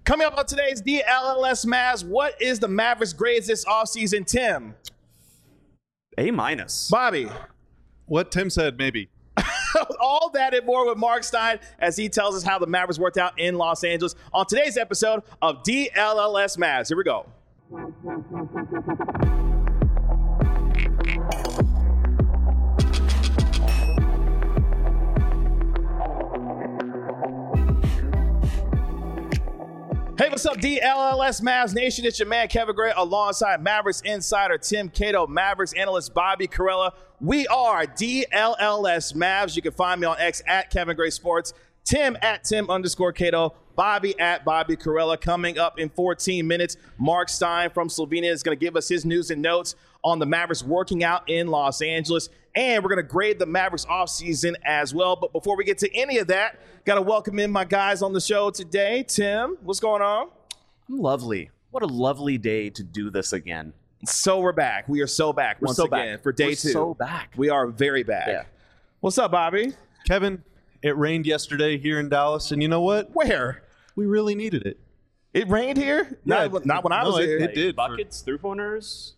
Coming up on today's DLLS Mavs, what is the Mavericks' grades this offseason, Tim? A-. Bobby. What Tim said, maybe. All that and more with Mark Stein as he tells us how the Mavericks worked out in Los Angeles on today's episode of DLLS Mavs. Here we go. Hey, what's up, DLLS Mavs Nation? It's your man, Kevin Gray, alongside Mavericks insider Tim Cato, Mavericks analyst Bobby Karalla. We are DLLS Mavs. You can find me on X at Kevin Gray Sports, Tim at Tim_Cato, Bobby at Bobby Karalla. Coming up in 14 minutes, Mark Stein from Slovenia is going to give us his news and notes on the Mavericks working out in Los Angeles. And we're going to grade the Mavericks offseason as well. But before we get to any of that, got to welcome in my guys on the show today. Tim, what's going on? Lovely. What a lovely day to do this again. So we're back. We are so back once again for day two. So back. We are very back. Yeah. What's up, Bobby? Kevin, it rained yesterday here in Dallas, and you know what? Where? We really needed it. It rained here? Yeah, not when I was here. It did. Buckets, three-pointers.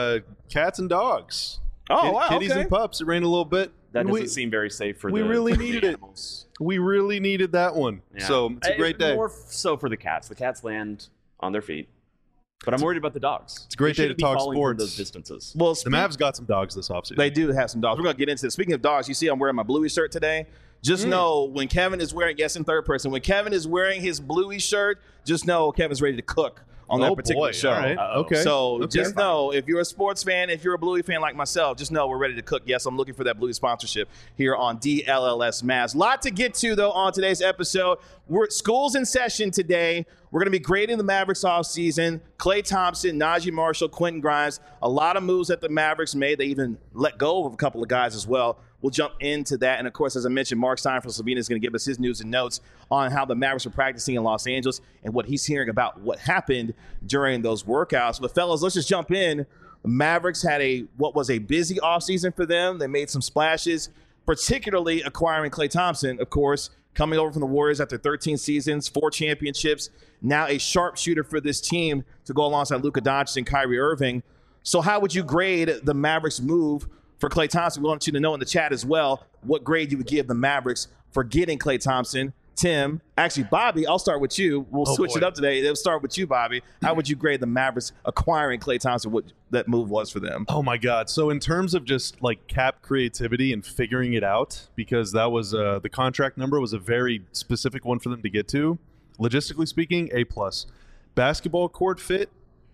Cats and dogs. Oh, wow, Kitties okay. and pups. It rained a little bit. That and doesn't seem very safe for we the really for needed the it. animals. We really needed that one. Yeah. So it's a great day. More so for the cats. The cats land on their feet. But I'm worried about the dogs. It's a great They day to shouldn't be talk falling from sports. those distances. Well, The Mavs got some dogs this offseason. they do have some dogs. We're going to get into it. Speaking of dogs, you see I'm wearing my Bluey shirt today. Just know when Kevin is wearing, yes, in third person, when Kevin is wearing his Bluey shirt, just know Kevin's ready to cook on that particular show. All right. Uh-oh. Okay. So Okay. just know, if you're a sports fan, if you're a Bluey fan like myself, just know we're ready to cook. Yes, I'm looking for that Bluey sponsorship here on DLLS Mavs. Lot to get to, though, on today's episode. School's in session today. We're going to be grading the Mavericks offseason. Klay Thompson, Najee Marshall, Quentin Grimes. A lot of moves that the Mavericks made. They even let go of a couple of guys as well. We'll jump into that. And, of course, as I mentioned, Mark Stein from Slovenia is going to give us his news and notes on how the Mavericks are practicing in Los Angeles and what he's hearing about what happened during those workouts. But, fellas, let's just jump in. The Mavericks had what was a busy offseason for them. They made some splashes, particularly acquiring Klay Thompson, of course, coming over from the Warriors after 13 seasons, 4 championships, now a sharpshooter for this team to go alongside Luka Doncic and Kyrie Irving. So how would you grade the Mavericks' move for Klay Thompson? We want you to know in the chat as well what grade you would give the Mavericks for getting Klay Thompson. Tim, actually, Bobby, I'll start with you. We'll switch it up today. It'll start with you, Bobby. How would you grade the Mavericks acquiring Klay Thompson, what that move was for them? Oh, my God. So in terms of just like cap creativity and figuring it out, because that was the contract number was a very specific one for them to get to, logistically speaking, A+. Basketball court fit,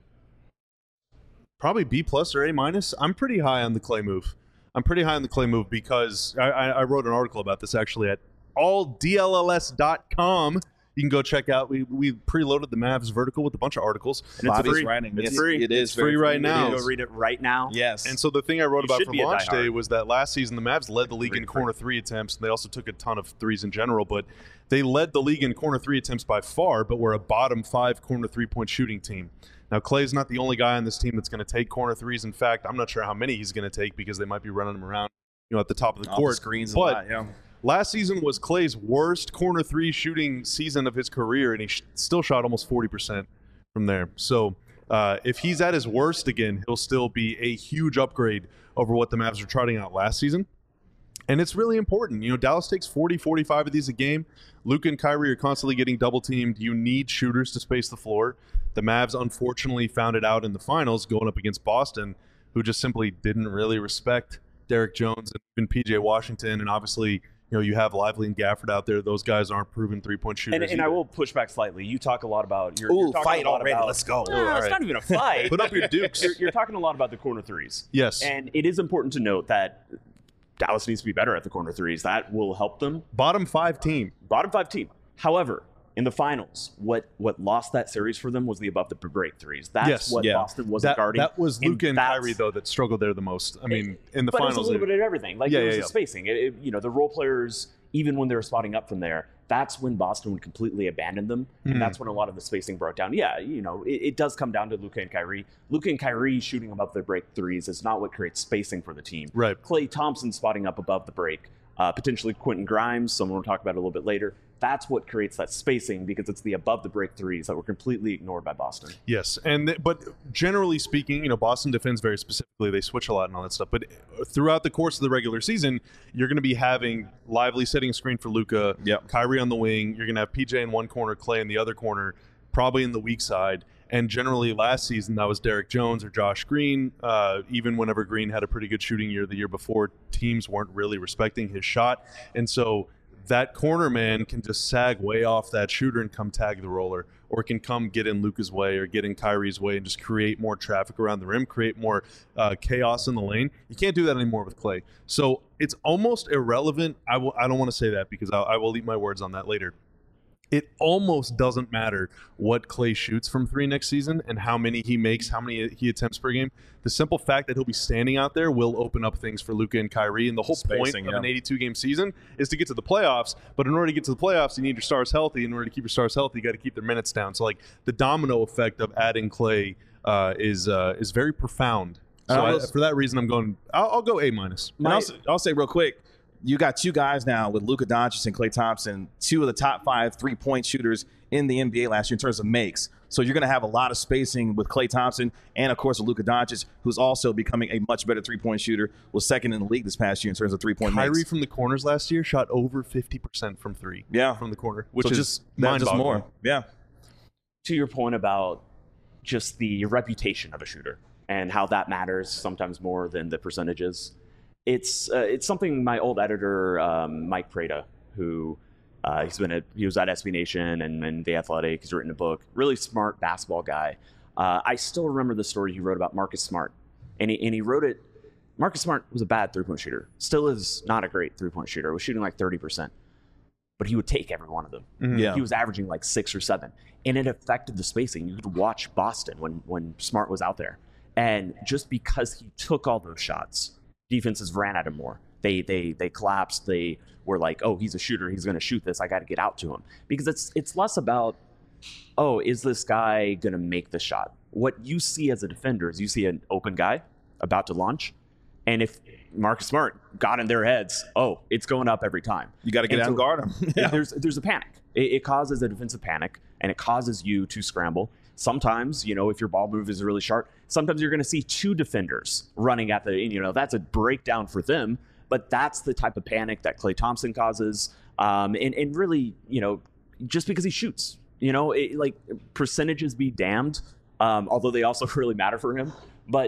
probably B+ or A-. I'm pretty high on the Klay move. Because I wrote an article about this actually at alldlls.com. You can go check out. We preloaded the Mavs vertical with a bunch of articles. And it's Bobby's free. writing. It's Yes, free. It is It's free right now. Go read it right now. Yes. And so the thing I wrote You about should for be a launch diehard. day was that last season the Mavs led the league in corner 3 attempts. And they also took a ton of threes in general, but they led the league in corner 3 attempts by far, but were a bottom 5 corner 3-point shooting team. Now, Klay's not the only guy on this team that's going to take corner threes. In fact, I'm not sure how many he's going to take because they might be running him around, at the top of the Off court. the screens a But lot, yeah. last season was Klay's worst corner 3 shooting season of his career, and he still shot almost 40% from there. So if he's at his worst again, he'll still be a huge upgrade over what the Mavs were trotting out last season. And it's really important. Dallas takes 40, 45 of these a game. Luka and Kyrie are constantly getting double-teamed. You need shooters to space the floor. The Mavs unfortunately found it out in the finals going up against Boston, who just simply didn't really respect Derek Jones and even P.J. Washington. And obviously, you have Lively and Gafford out there. Those guys aren't proven three-point shooters. And I will push back slightly. You talk a lot about you're Ooh, talking fight a lot already. about, Let's go. No, All it's right. not even a fight. Put up your dukes. You're talking a lot about the corner threes. Yes. And it is important to note that Dallas needs to be better at the corner threes. That will help them. Bottom 5 team. Bottom 5 team. However, in the finals, what lost that series for them was the above the break threes. That's Yes. what Yeah. Boston wasn't guarding. That was Luka and that's- Kyrie, though, that struggled there the most. I mean, in the but finals. it was a little bit of everything. Like, Yeah, there was yeah, the yeah. spacing. The role players, even when they were spotting up from there, that's when Boston would completely abandon them. And that's when a lot of the spacing broke down. Yeah, it does come down to Luka and Kyrie. Luka and Kyrie shooting above their break threes is not what creates spacing for the team. Right. Klay Thompson spotting up above the break. Potentially Quentin Grimes, someone we'll talk about a little bit later. that's what creates that spacing, because it's the above the break threes that were completely ignored by Boston. Yes, but generally speaking, Boston defends very specifically. They switch a lot and all that stuff. But throughout the course of the regular season, you're going to be having Lively setting a screen for Luka, Kyrie on the wing. You're going to have PJ in one corner, Clay in the other corner, probably in the weak side. And generally last season, that was Derek Jones or Josh Green. Even whenever Green had a pretty good shooting year the year before, teams weren't really respecting his shot. And so that corner man can just sag way off that shooter and come tag the roller, or can come get in Luka's way or get in Kyrie's way and just create more traffic around the rim, create more chaos in the lane. You can't do that anymore with Clay. So it's almost irrelevant. I don't want to say that because I will eat my words on that later. It almost doesn't matter what Clay shoots from three next season and how many he makes, how many he attempts per game. The simple fact that he'll be standing out there will open up things for Luka and Kyrie. And the whole point of an 82-game season is to get to the playoffs. But in order to get to the playoffs, you need your stars healthy. In order to keep your stars healthy, you got to keep their minutes down. So, like, the domino effect of adding Clay is very profound. So for that reason, I'll go A-. And I'll say real quick, you got two guys now with Luka Doncic and Klay Thompson, two of the top 5 3-point shooters in the NBA last year in terms of makes. So you're going to have a lot of spacing with Klay Thompson and, of course, with Luka Doncic, who's also becoming a much better 3-point shooter, was second in the league this past year in terms of 3-point makes. Kyrie from the corners last year shot over 50% from three from the corner, which is mind-boggling. More. Yeah. To your point about just the reputation of a shooter and how that matters sometimes more than the percentages, it's something my old editor, Mike Prada, who he was at SB Nation and The Athletic. He's written a book. Really smart basketball guy. I still remember the story he wrote about Marcus Smart, and he wrote it. Marcus Smart was a bad 3-point shooter. Still is not a great 3-point shooter. Was shooting like 30%, but he would take every one of them. Mm-hmm. Yeah. He was averaging like 6 or 7, and it affected the spacing. You could watch Boston when Smart was out there, and just because he took all those shots, defenses ran at him more. They collapsed. They were like, oh, he's a shooter. He's going to shoot this. I got to get out to him. Because it's less about, oh, is this guy going to make the shot? What you see as a defender is you see an open guy about to launch. And if Marcus Smart got in their heads, oh, it's going up every time. You got to get out and guard him. Yeah. There's a panic. It causes a defensive panic, and it causes you to scramble. Sometimes, if your ball move is really sharp, sometimes you're going to see 2 defenders running at that's a breakdown for them. But that's the type of panic that Klay Thompson causes. And really, just because he shoots, percentages be damned, although they also really matter for him. But,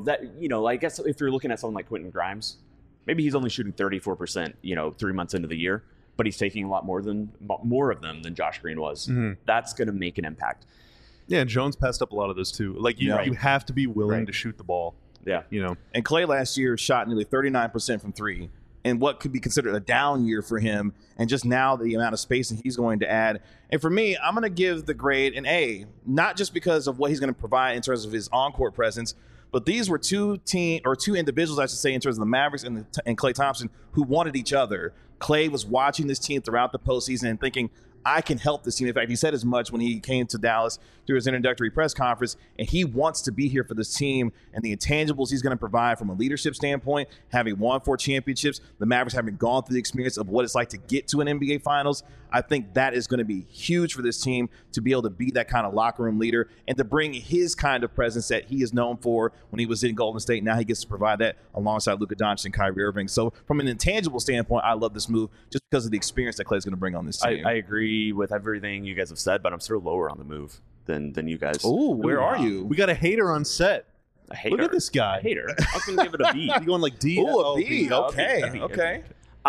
I guess if you're looking at someone like Quentin Grimes, maybe he's only shooting 34%, 3 months into the year, but he's taking a lot more of them than Josh Green was. Mm-hmm. That's going to make an impact. Yeah, and Jones passed up a lot of those too. Like you have to be willing to shoot the ball. Yeah. And Klay last year shot nearly 39% from 3 in what could be considered a down year for him. And just now the amount of spacing he's going to add. And for me, I'm going to give the grade an A, not just because of what he's going to provide in terms of his on-court presence, but these were two individuals, I should say, in terms of the Mavericks and Klay Thompson, who wanted each other. Klay was watching this team throughout the postseason and thinking, I can help this team. In fact, he said as much when he came to Dallas through his introductory press conference, and he wants to be here for this team and the intangibles he's going to provide from a leadership standpoint, having won 4 championships, the Mavericks having gone through the experience of what it's like to get to an NBA Finals. I think that is going to be huge for this team to be able to be that kind of locker room leader and to bring his kind of presence that he is known for when he was in Golden State. Now he gets to provide that alongside Luka Doncic and Kyrie Irving. So from an intangible standpoint, I love this move just because of the experience that Klay's going to bring on this team. I agree with everything you guys have said, but I'm still lower on the move than you guys. Oh, where are you? We got a hater on set. A hater. Look at this guy. A hater. I was going to give it a B. You going like D? Oh, a B. Okay.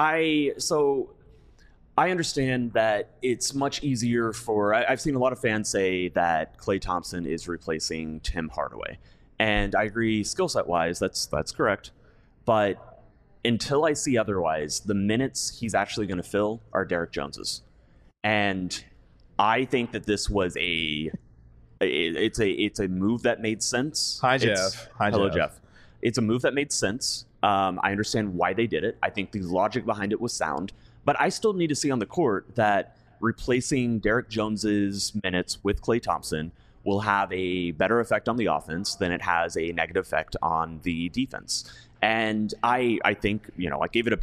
I understand that it's much easier for. I've seen a lot of fans say that Klay Thompson is replacing Tim Hardaway, and I agree. Skill set wise, that's correct. But until I see otherwise, the minutes he's actually going to fill are Derek Jones's, and I think that this was it's a move that made sense. Hi, Jeff. Hello, Jeff. It's a move that made sense. I understand why they did it. I think the logic behind it was sound. But I still need to see on the court that replacing Derek Jones's minutes with Klay Thompson will have a better effect on the offense than it has a negative effect on the defense. And I think, I gave it a B.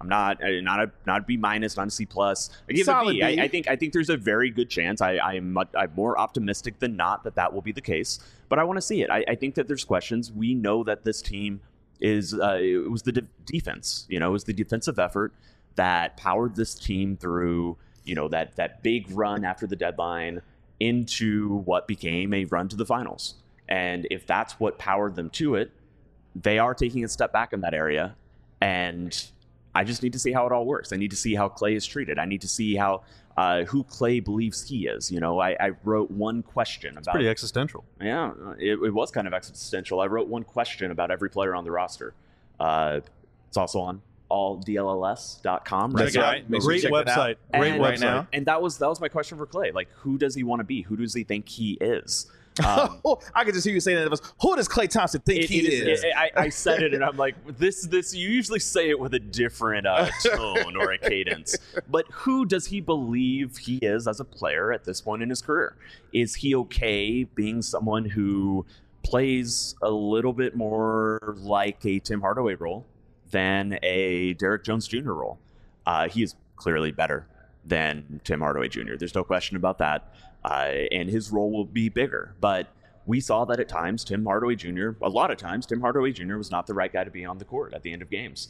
I'm not a B minus, not a C plus. I give Solid it a B. B. I think there's a very good chance. I'm more optimistic than not that will be the case. But I want to see it. I think that there's questions. We know that this team is it was the defense. It was the defensive effort that powered this team through that big run after the deadline into what became a run to the finals. And if that's what powered them to it, they are taking a step back in that area. And I just need to see how it all works. I need to see how Klay is treated. I need to see how who Klay believes he is. I wrote one question about. Pretty existential. Yeah, it was kind of existential. I wrote one question about every player on the roster. It's also on alldlls.com. Right? That's right. Great website. Great website. Now. And that was my question for Klay. Like, who does he want to be? Who does he think he is? I could just hear you saying that. Who does Klay Thompson think he is? I said it, and I'm like, this. You usually say it with a different tone or a cadence. But who does he believe he is as a player at this point in his career? Is he okay being someone who plays a little bit more like a Tim Hardaway role than a Derrick Jones Jr. role? He is clearly better than Tim Hardaway Jr. There's no question about that. And his role will be bigger. But we saw that at times, a lot of times, Tim Hardaway Jr. was not the right guy to be on the court at the end of games.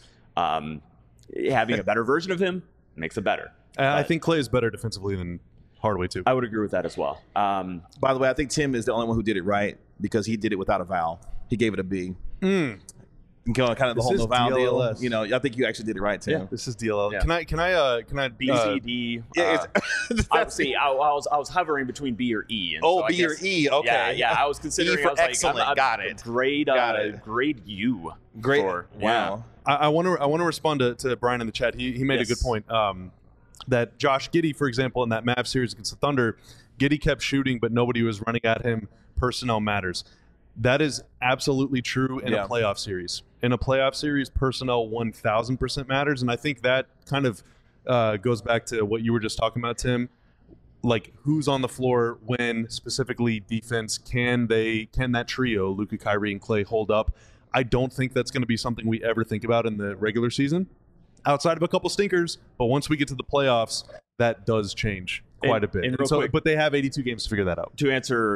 Having a better version of him makes it better. I think Klay is better defensively than Hardaway, too. I would agree with that as well. By the way, I think Tim is the only one who did it right because he did it without a vowel. He gave it a B. Kind of the whole no vowel DLLS. deal. I think you actually did it right, Tim. Yeah, this is DLL. Yeah. Can I B, C, D. Yeah, I was hovering between B or E. And so I B guess, or E. Okay. Yeah. I was considering. E for I was like, excellent. Got it. Grade U. Great. Wow. I want to respond to Brian in the chat. He made a good point. That Josh Giddey, for example, in that Mavs series against the Thunder, Giddey kept shooting, but nobody was running at him. Personnel matters. That is absolutely true in a playoff series. In a playoff series, personnel 1,000% matters, and I think that kind of goes back to what you were just talking about, Tim. Like, who's on the floor when, specifically defense, can that trio, Luka, Kyrie, and Klay, hold up? I don't think that's going to be something we ever think about in the regular season, outside of a couple stinkers. But once we get to the playoffs, that does change quite a bit. But they have 82 games to figure that out.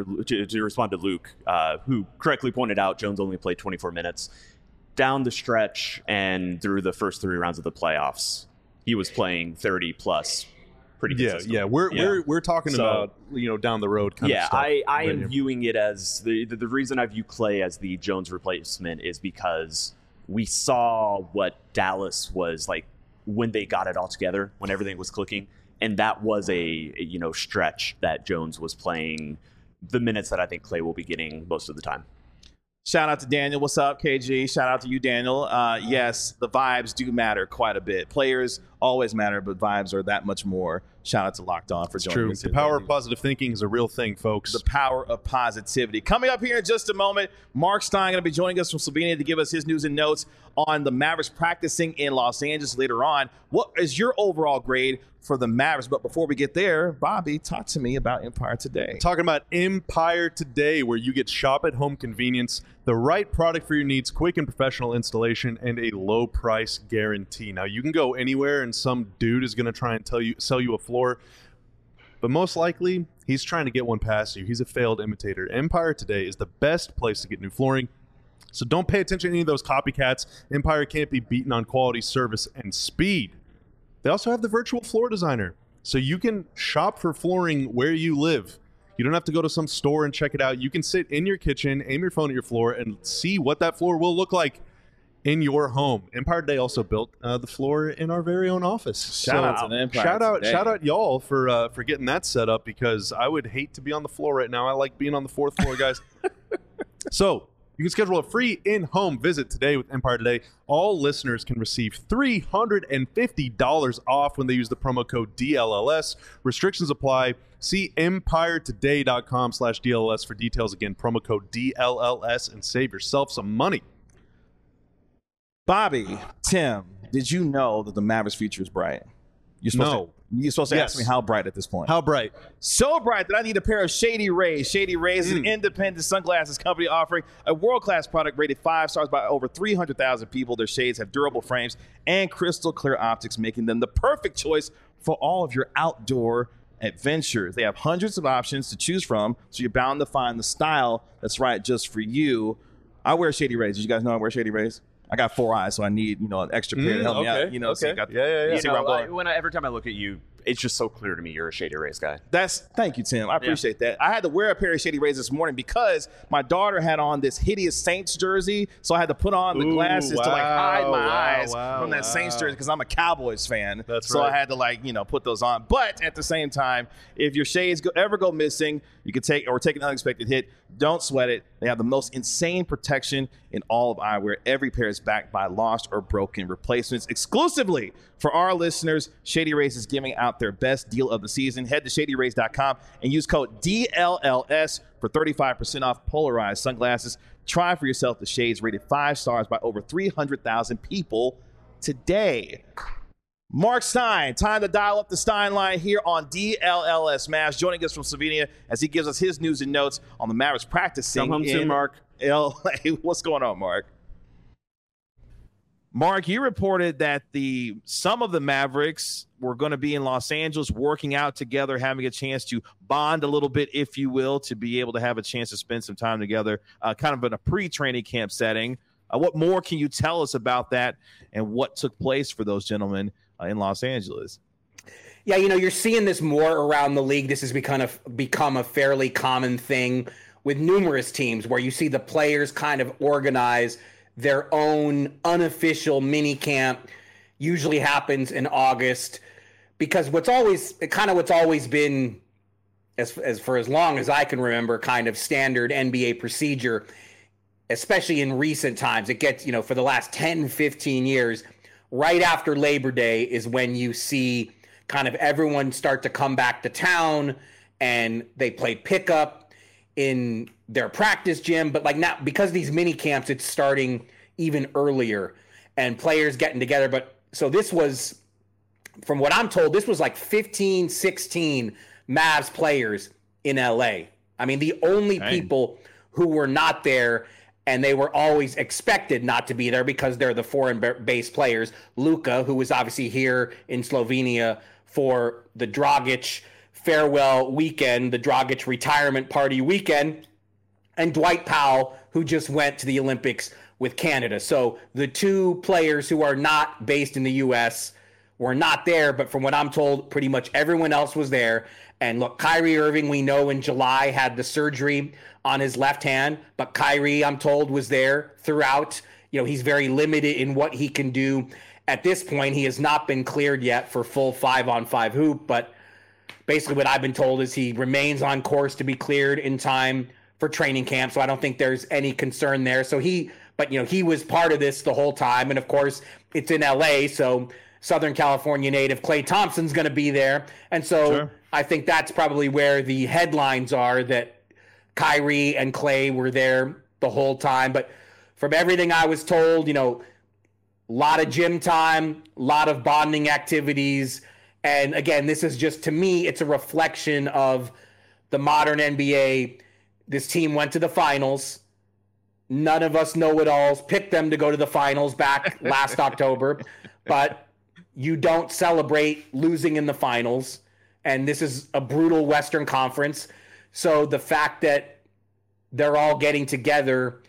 To respond to Luke, who correctly pointed out Jones only played 24 minutes. Down the stretch and through the first 3 rounds of the playoffs, he was playing 30 plus pretty consistently. Yeah. We're talking about down the road kind of stuff. I am viewing it as the reason I view Klay as the Jones replacement is because we saw what Dallas was like when they got it all together, when everything was clicking. And that was a stretch that Jones was playing the minutes that I think Klay will be getting most of the time. Shout out to Daniel. What's up, KG? Shout out to you, Daniel. Yes, the vibes do matter quite a bit. Players always matter, but vibes are that much more. Shout out to Locked On for joining us. The power of positive thinking is a real thing, folks. The power of positivity. Coming up here in just a moment, Mark Stein going to be joining us from Slovenia to give us his news and notes on the Mavericks practicing in Los Angeles later on. What is your overall grade for the Mavericks? But before we get there, Bobby, talk to me about Empire Today. Talking about Empire Today, where you get shop-at-home convenience, the right product for your needs, quick and professional installation, and a low price guarantee. Now, you can go anywhere and some dude is going to try and sell you a floor, but most likely, he's trying to get one past you. He's a failed imitator. Empire Today is the best place to get new flooring, so don't pay attention to any of those copycats. Empire can't be beaten on quality, service, and speed. They also have the virtual floor designer, so you can shop for flooring where you live. You don't have to go to some store and check it out. You can sit in your kitchen, aim your phone at your floor, and see what that floor will look like in your home. Empire Today also built the floor in our very own office. Shout out to Empire Today. Shout out y'all for getting that set up, because I would hate to be on the floor right now. I like being on the 4th floor, guys. So you can schedule a free in-home visit today with Empire Today. All listeners can receive $350 off when they use the promo code DLLS. Restrictions apply. See empiretoday.com/DLLS for details. Again, promo code DLLS, and save yourself some money. Bobby, Tim, did you know that the Mavericks future is bright? No. You're supposed to Yes. ask me how bright at this point. How bright? So bright that I need a pair of Shady Rays. Shady Rays is an independent sunglasses company offering a world-class product rated 5 stars by over 300,000 people. Their shades have durable frames and crystal clear optics, making them the perfect choice for all of your outdoor adventures. They have hundreds of options to choose from, so you're bound to find the style that's right just for you. I wear Shady Rays. Did you guys know I wear Shady Rays? I got 4 eyes, so I need, an extra pair to help me out. So you got, Yeah. see where I'm going. Every time I look at you, it's just so clear to me you're a Shady Rays guy. Thank you, Tim. I appreciate that. I had to wear a pair of Shady Rays this morning because my daughter had on this hideous Saints jersey, so I had to put on the glasses to hide my eyes from that Saints jersey because I'm a Cowboys fan. So I had to put those on. But at the same time, if your shades ever go missing, you can take an unexpected hit. Don't sweat it. They have the most insane protection in all of eyewear. Every pair is backed by lost or broken replacements. Exclusively for our listeners, Shady Rays is giving out their best deal of the season. Head to shadyrays.com and use code DLLS for 35% off polarized sunglasses. Try for yourself the shades rated 5 stars by over 300,000 people today. Mark Stein, time to dial up the Stein line here on DLLS Mavs, joining us from Slovenia as he gives us his news and notes on the Mavericks practicing Come home soon, Mark. LA. What's going on, Mark? Mark, you reported that some of the Mavericks were going to be in Los Angeles working out together, having a chance to bond a little bit, if you will, to be able to have a chance to spend some time together, kind of in a pre-training camp setting. What more can you tell us about that and what took place for those gentlemen in Los Angeles? Yeah, you're seeing this more around the league. This has become a fairly common thing with numerous teams where you see the players kind of organize their own unofficial mini camp. Usually happens in August because what's always been, as for as long as I can remember, kind of standard NBA procedure, especially in recent times. It gets, for the last 10, 15 years, right after Labor Day is when you see kind of everyone start to come back to town and they play pickup in their practice gym. But now, because these mini camps, it's starting even earlier and players getting together. But so this was, from what I'm told, this was like 15, 16 Mavs players in LA. I mean, the only people who were not there, and they were always expected not to be there because they're the foreign-based players. Luka, who was obviously here in Slovenia for the Dragic farewell weekend, the Dragic retirement party weekend, and Dwight Powell, who just went to the Olympics with Canada. So the two players who are not based in the U.S. were not there, but from what I'm told, pretty much everyone else was there. And look, Kyrie Irving, we know in July had the surgery on his left hand, but Kyrie, I'm told, was there throughout. He's very limited in what he can do. At this point, he has not been cleared yet for full 5-on-5 hoop, but basically what I've been told is he remains on course to be cleared in time for training camp, so I don't think there's any concern there. So he was part of this the whole time, and of course, it's in LA, so Southern California native Klay Thompson's going to be there. And so sure. I think that's probably where the headlines are, that Kyrie and Klay were there the whole time. But from everything I was told, a lot of gym time, a lot of bonding activities. And again, this is just, to me, it's a reflection of the modern NBA. This team went to the finals. None of us know-it-alls picked them to go to the finals back last October. But you don't celebrate losing in the finals, and this is a brutal Western Conference. So the fact that they're all getting together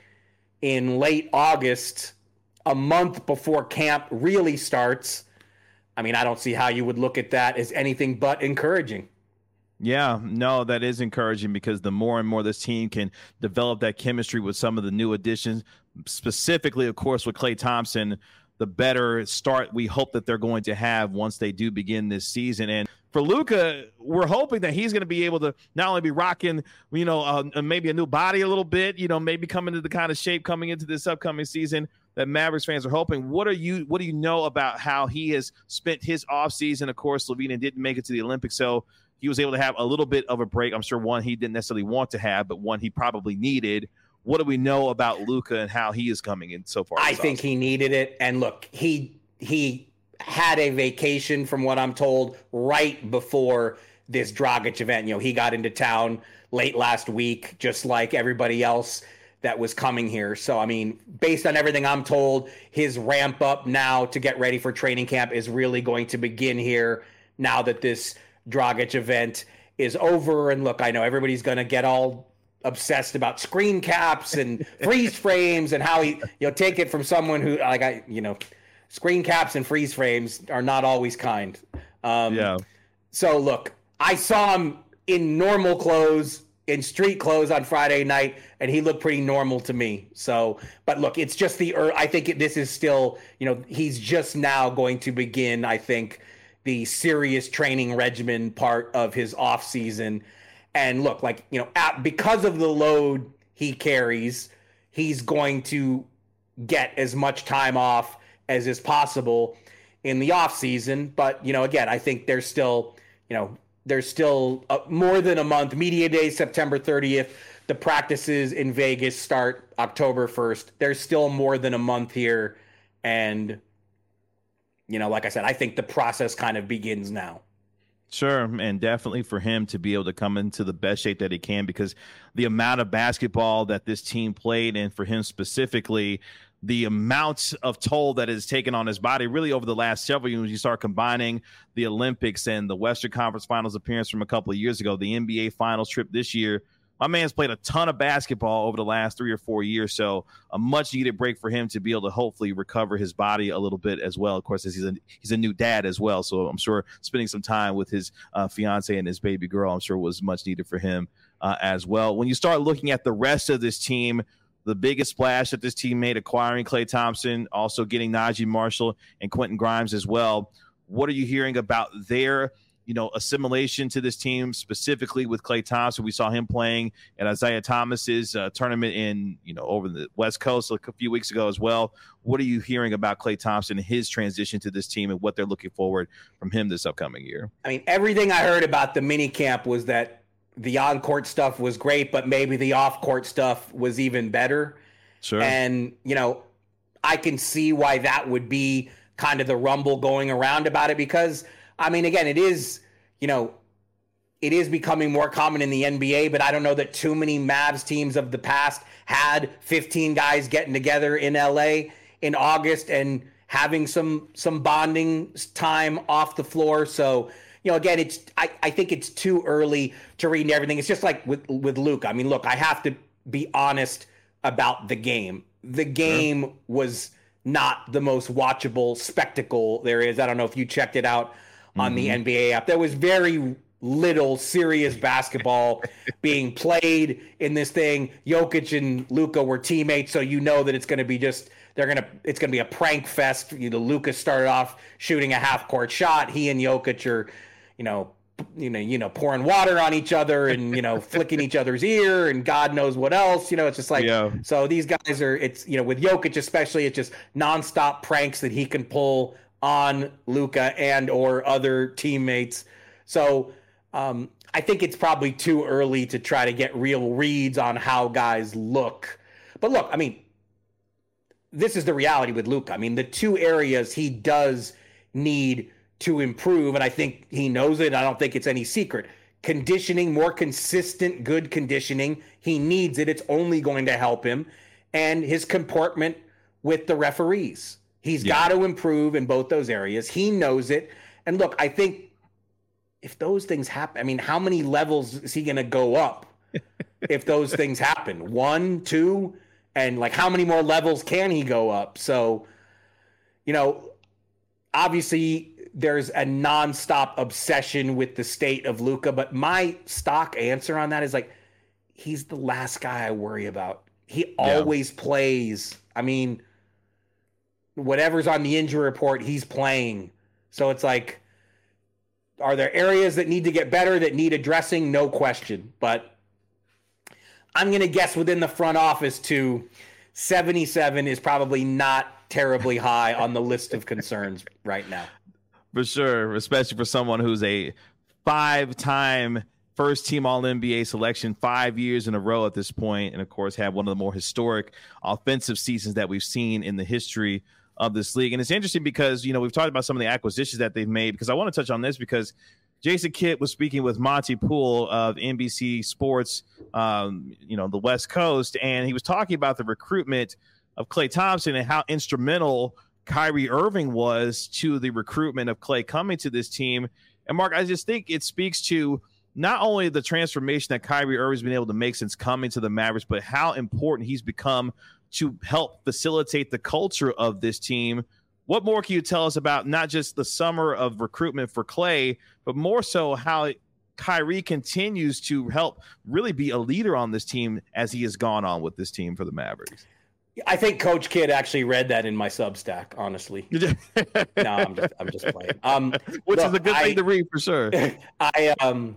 in late August, a month before camp really starts, I mean, I don't see how you would look at that as anything but encouraging. Yeah, no, that is encouraging because the more and more this team can develop that chemistry with some of the new additions, specifically, of course, with Klay Thompson, the better start we hope that they're going to have once they do begin this season. And for Luka, we're hoping that he's going to be able to not only be rocking, maybe a new body a little bit, maybe coming into the kind of shape coming into this upcoming season that Mavericks fans are hoping. What do you know about how he has spent his offseason? Of course, Slovenia didn't make it to the Olympics, so he was able to have a little bit of a break. I'm sure one he didn't necessarily want to have, but one he probably needed. What do we know about Luka and how he is coming in so far? I think he needed it. And look, he had a vacation, from what I'm told, right before this Dragic event. He got into town late last week, just like everybody else that was coming here. So, I mean, based on everything I'm told, his ramp up now to get ready for training camp is really going to begin here now that this Dragic event is over. And look, I know everybody's going to get all obsessed about screen caps and freeze frames and how take it from someone who screen caps and freeze frames are not always kind. So look, I saw him in normal clothes, in street clothes on Friday night, and he looked pretty normal to me. So, but look, it's just I think this is still, he's just now going to begin, I think, the serious training regimen part of his off season. And look, because of the load he carries, he's going to get as much time off as is possible in the off season. But, again, I think there's still more than a month. Media Day, September 30th. The practices in Vegas start October 1st. There's still more than a month here. And, like I said, I think the process kind of begins now. Sure, and definitely for him to be able to come into the best shape that he can, because the amount of basketball that this team played, and for him specifically, the amount of toll that is taken on his body really over the last several years. You start combining the Olympics and the Western Conference Finals appearance from a couple of years ago, the NBA Finals trip this year. My man's played a ton of basketball over the last 3 or 4 years, so a much-needed break for him to be able to hopefully recover his body a little bit as well. Of course, as he's a new dad as well, so I'm sure spending some time with his fiance and his baby girl, I'm sure was much needed for him as well. When you start looking at the rest of this team, the biggest splash that this team made, acquiring Klay Thompson, also getting Najee Marshall and Quentin Grimes as well. What are you hearing about their assimilation to this team, specifically with Klay Thompson? We saw him playing at Isaiah Thomas's tournament in, over the West Coast a few weeks ago as well. What are you hearing about Klay Thompson and his transition to this team and what they're looking forward from him this upcoming year? I mean, everything I heard about the mini camp was that the on-court stuff was great, but maybe the off-court stuff was even better. Sure. And, I can see why that would be kind of the rumble going around about it, because I mean, again, it is becoming more common in the NBA, but I don't know that too many Mavs teams of the past had 15 guys getting together in LA in August and having some bonding time off the floor. So, again, I think it's too early to read everything. It's just like with Luke. I mean, look, I have to be honest about the game. The game was not the most watchable spectacle there is. I don't know if you checked it out on the NBA app. There was very little serious basketball being played in this thing. Jokic and Luka were teammates, so that it's going to be it's going to be a prank fest. Luka started off shooting a half-court shot. He and Jokic are, pouring water on each other and flicking each other's ear and God knows what else. It's just like, So these guys are. It's with Jokic especially, it's just nonstop pranks that he can pull on Luka and or other teammates. So I think it's probably too early to try to get real reads on how guys look. But look, I mean, this is the reality with Luka. I mean, the two areas he does need to improve, and I think he knows it. I don't think it's any secret. Conditioning, more consistent, good conditioning. He needs it. It's only going to help him. And his comportment with the referees. He's got to improve in both those areas. He knows it. And look, I think if those things happen, I mean, how many levels is he going to go up if those things happen? 1, 2, and how many more levels can he go up? So, obviously there's a nonstop obsession with the state of Luka, but my stock answer on that is he's the last guy I worry about. He always plays. I mean, whatever's on the injury report, he's playing. So it's are there areas that need to get better, that need addressing? No question. But I'm going to guess within the front office 77 is probably not terribly high on the list of concerns right now. For sure, especially for someone who's a 5-time first-team All-NBA selection 5 years in a row at this point, and, of course, had one of the more historic offensive seasons that we've seen in the history of this league. And it's interesting because, we've talked about some of the acquisitions that they've made, because I want to touch on this because Jason Kidd was speaking with Monty Poole of NBC Sports, the West Coast, and he was talking about the recruitment of Klay Thompson and how instrumental Kyrie Irving was to the recruitment of Klay coming to this team. And Mark, I just think it speaks to not only the transformation that Kyrie Irving's been able to make since coming to the Mavericks, but how important he's become to help facilitate the culture of this team. What more can you tell us about not just the summer of recruitment for Klay, but more so how Kyrie continues to help really be a leader on this team as he has gone on with this team for the Mavericks? I think Coach Kidd actually read that in my Substack, honestly. No, I'm just playing. Which is a good thing to read for sure. I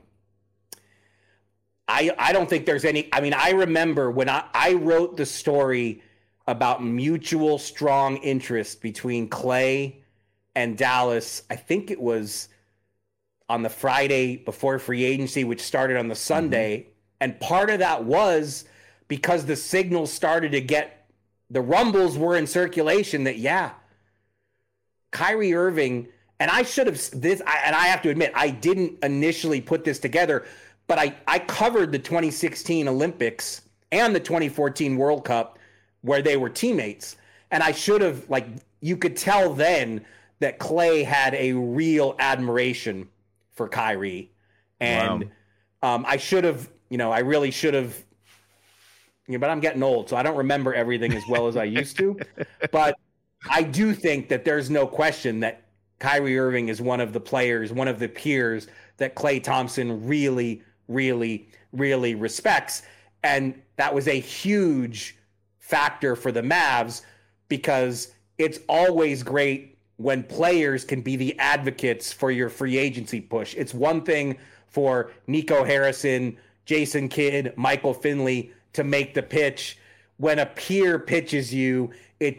don't think there's any. I mean, I remember when I wrote the story about mutual strong interest between Klay and Dallas. I think it was on the Friday before free agency, which started on the Sunday. Mm-hmm. And part of that was because the signals started to get, the rumbles were in circulation that, Kyrie Irving, and I should have and I have to admit, I didn't initially put this together, but I covered the 2016 Olympics and the 2014 World Cup where they were teammates. And I should have, you could tell then that Klay had a real admiration for Kyrie. And I should have, I really should have, but I'm getting old, so I don't remember everything as well as I used to. But I do think that there's no question that Kyrie Irving is one of the players, one of the peers that Klay Thompson really, really, really respects. And that was a huge factor for the Mavs, because it's always great when players can be the advocates for your free agency push. It's one thing for Nico Harrison, Jason Kidd, Michael Finley to make the pitch. When a peer pitches you, it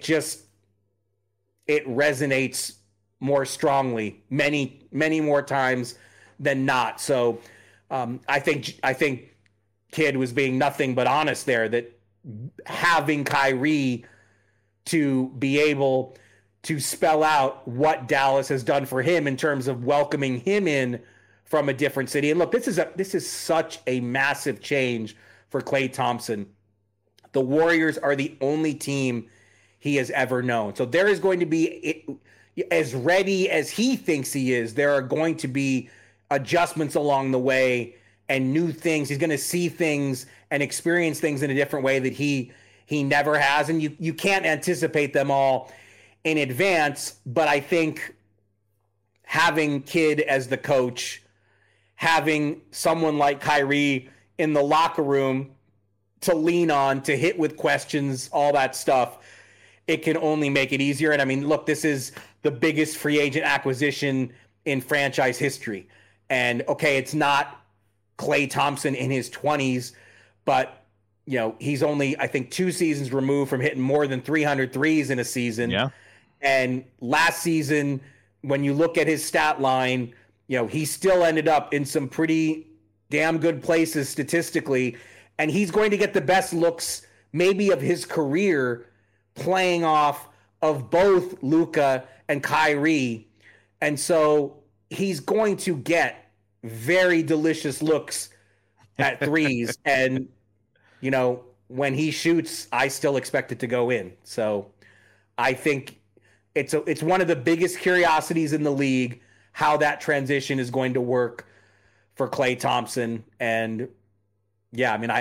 resonates more strongly, many more times than not. So I think Kidd was being nothing but honest there, that having Kyrie to be able to spell out what Dallas has done for him in terms of welcoming him in from a different city. And look, this is such a massive change for Klay Thompson. The Warriors are the only team he has ever known. So there is going to be, as ready as he thinks he is, there are going to be adjustments along the way and new things. He's going to see things and experience things in a different way that he never has. And you can't anticipate them all in advance. But I think having Kidd as the coach, having someone like Kyrie in the locker room to lean on, to hit with questions, all that stuff, it can only make it easier. And I mean, look, this is the biggest free agent acquisition in franchise history. And okay, it's not Klay Thompson in his 20s, but he's only, I think, 2 seasons removed from hitting more than 300 threes in a season. Yeah. And last season, when you look at his stat line, he still ended up in some pretty damn good places statistically. And he's going to get the best looks maybe of his career playing off of both Luka and Kyrie. And so he's going to get very delicious looks at threes. And, when he shoots, I still expect it to go in. So I think it's one of the biggest curiosities in the league, how that transition is going to work for Klay Thompson. And yeah, I mean,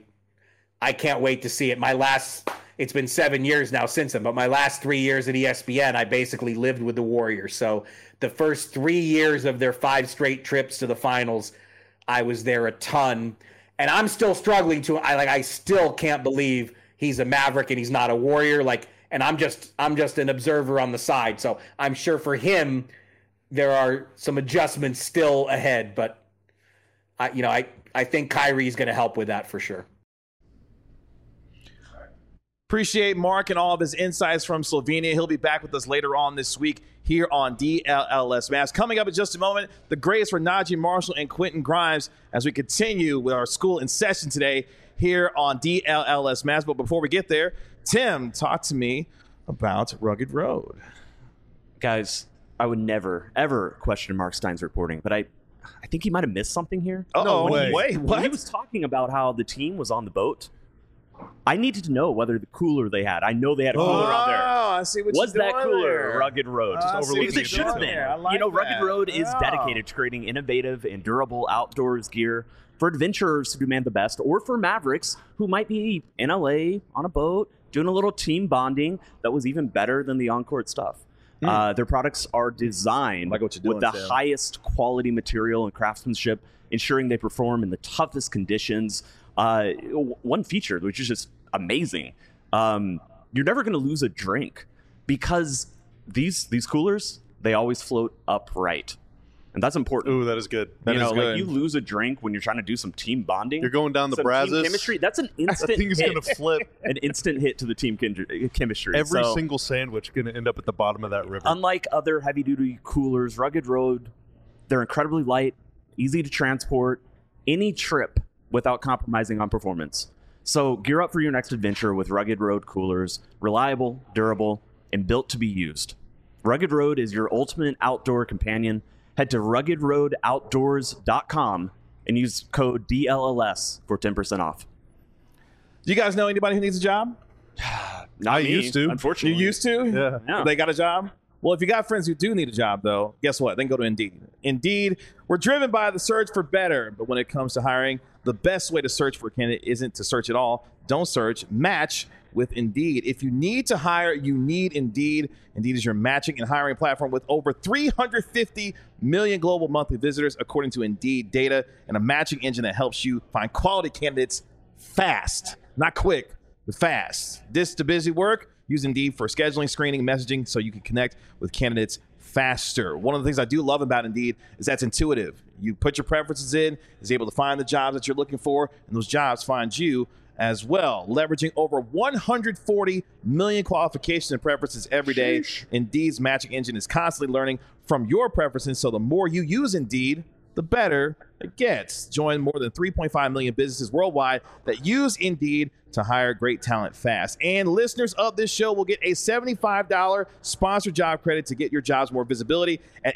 I can't wait to see it. It's been 7 years now since then, but my last 3 years at ESPN, I basically lived with the Warriors. So the first 3 years of their 5 straight trips to the finals, I was there a ton. And I'm still struggling I still can't believe he's a Maverick and he's not a Warrior. And I'm just an observer on the side. So I'm sure for him, there are some adjustments still ahead, but I think Kyrie's going to help with that for sure. Appreciate Mark and all of his insights from Slovenia. He'll be back with us later on this week here on DLLS Mavs. Coming up in just a moment, the greatest for Naji Marshall and Quentin Grimes as we continue with our school in session today here on DLLS Mavs. But before we get there, Tim, talk to me about Rugged Road. Guys, I would never, ever question Mark Stein's reporting, but I think he might have missed something here. No way. Wait, When what? he was talking about how the team was on the boat, I needed to know whether the cooler they had. I know they had a cooler out there. I see what Was you're that doing cooler there. Rugged Road? I see what Because you're it should have doing been. there. I like Rugged that. Road is Yeah. dedicated to creating innovative and durable outdoors gear for adventurers who demand the best, or for mavericks who might be in LA on a boat doing a little team bonding that was even better than the on-court stuff. Their products are designed Like what you're with doing, the Sam. highest quality material and craftsmanship, ensuring they perform in the toughest conditions. One feature, which is just amazing, you're never going to lose a drink because these coolers, they always float upright. And that's important. Ooh, that is good. That is Like good. you lose a drink when you're trying to do some team bonding. You're going down the some team Brazos. chemistry. That's an That instant thing is hit. going to flip. An instant hit to the team chemistry. Every So, single sandwich going to end up at the bottom of that river. unlike other heavy-duty coolers, Rugged Road, they're incredibly light, easy to transport any trip without compromising on performance. So gear up for your next adventure with Rugged Road coolers, reliable, durable, and built to be used. Rugged Road is your ultimate outdoor companion. Head to ruggedroadoutdoors.com and use code DLLS for 10% off. Do you guys know anybody who needs a job? Not I me, used to. unfortunately. You used to? Yeah. Yeah. They got a job? Well, if you got friends who do need a job, though, guess what? Then go to Indeed. Indeed, we're driven by the search for better. But when it comes to hiring, the best way to search for a candidate isn't to search at all. Don't search. Match with Indeed. If you need to hire, you need Indeed. Indeed is your matching and hiring platform with over 350 million global monthly visitors, according to Indeed data, and a matching engine that helps you find quality candidates fast. Not quick, but fast. This to busy work? Use Indeed for scheduling, screening, messaging so you can connect with candidates faster. One of the things I do love about Indeed is that's intuitive. You put your preferences in, is able to find the jobs that you're looking for, and those jobs find you as well. Leveraging over 140 million qualifications and preferences every day, Indeed's matching engine is constantly learning from your preferences, so the more you use Indeed, the better it gets. Join more than 3.5 million businesses worldwide that use Indeed to hire great talent fast. And listeners of this show will get a $75 sponsored job credit to get your jobs more visibility at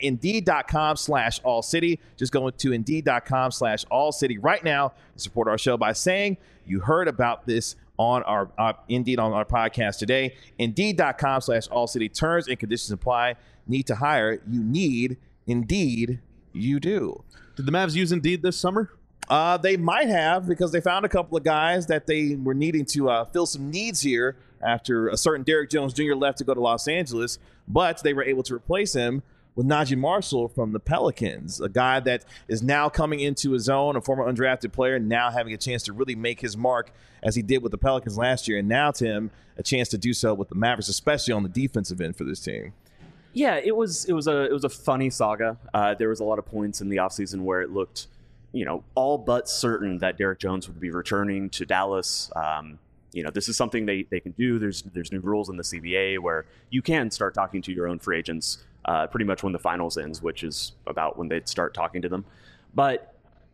Indeed.com/AllCity. Just go to Indeed.com/AllCity right now and support our show by saying you heard about this on our Indeed on our podcast today. Indeed.com/AllCity. Terms and conditions apply. Need to hire? You need Indeed. You do. Did the Mavs use Indeed this summer? They might have, because they found a couple of guys that they were needing to fill some needs here after a certain Derrick Jones Jr. left to go to Los Angeles, but they were able to replace him with Najee Marshall from the Pelicans, a guy that is now coming into his own, a former undrafted player, now having a chance to really make his mark as he did with the Pelicans last year, and now, Tim, a chance to do so with the Mavericks, especially on the defensive end for this team. Yeah, it was a funny saga. There was a lot of points in the offseason where it looked, all but certain that Derrick Jones would be returning to Dallas. This is something they can do. There's new rules in the CBA where you can start talking to your own free agents pretty much when the finals ends, which is about when they'd start talking to them. But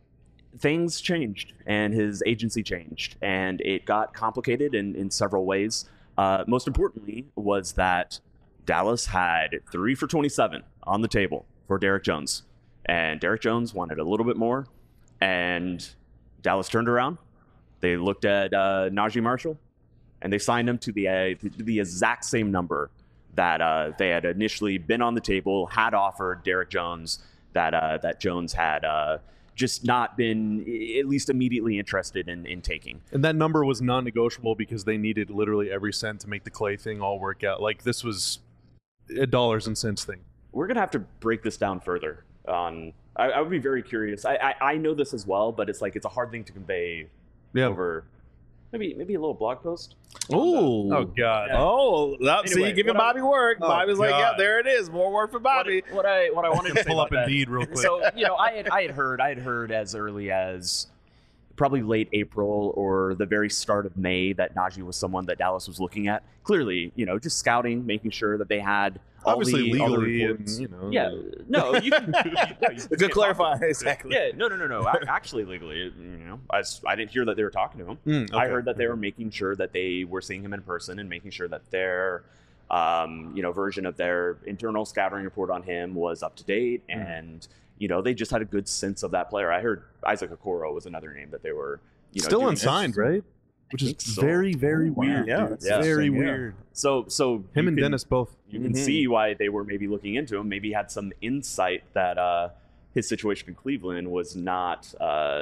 things changed, and his agency changed, and it got complicated in several ways. Most importantly was that Dallas had 3 for 27 on the table for Derrick Jones, and Derrick Jones wanted a little bit more, and Dallas turned around. They looked at Najee Marshall, and they signed him to the exact same number that they had initially been on the table, had offered Derrick Jones, that Jones had just not been at least immediately interested in taking. And that number was non-negotiable because they needed literally every cent to make the Clay thing all work out. Like, this was a dollars and cents thing. We're going to have to break this down further. I would be very curious. I know this as well, but it's a hard thing to convey over maybe a little blog post. Ooh. Oh, God. Oh, see, Anyway, you giving Bobby work. Oh, Bobby's like, yeah, God. there it is. More work for Bobby. What I wanted to say Pull about up that. Indeed real quick. So, I had heard as early as probably late April or the very start of May that Najee was someone that Dallas was looking at. Clearly, just scouting, making sure that they had Obviously all the legally, reports. and, Yeah, no, you can. Good clarify. Exactly. Yeah, no. Actually, legally, I didn't hear that they were talking to him. Okay. I heard that they were making sure that they were seeing him in person and making sure that their version of their internal scouting report on him was up to date, and they just had a good sense of that player. I heard Isaac Okoro was another name that they were still unsigned, right? Which is very, very weird. Yeah, it's very weird. So him and Dennis both. You can see why they were maybe looking into him. Maybe had some insight that his situation in Cleveland was not,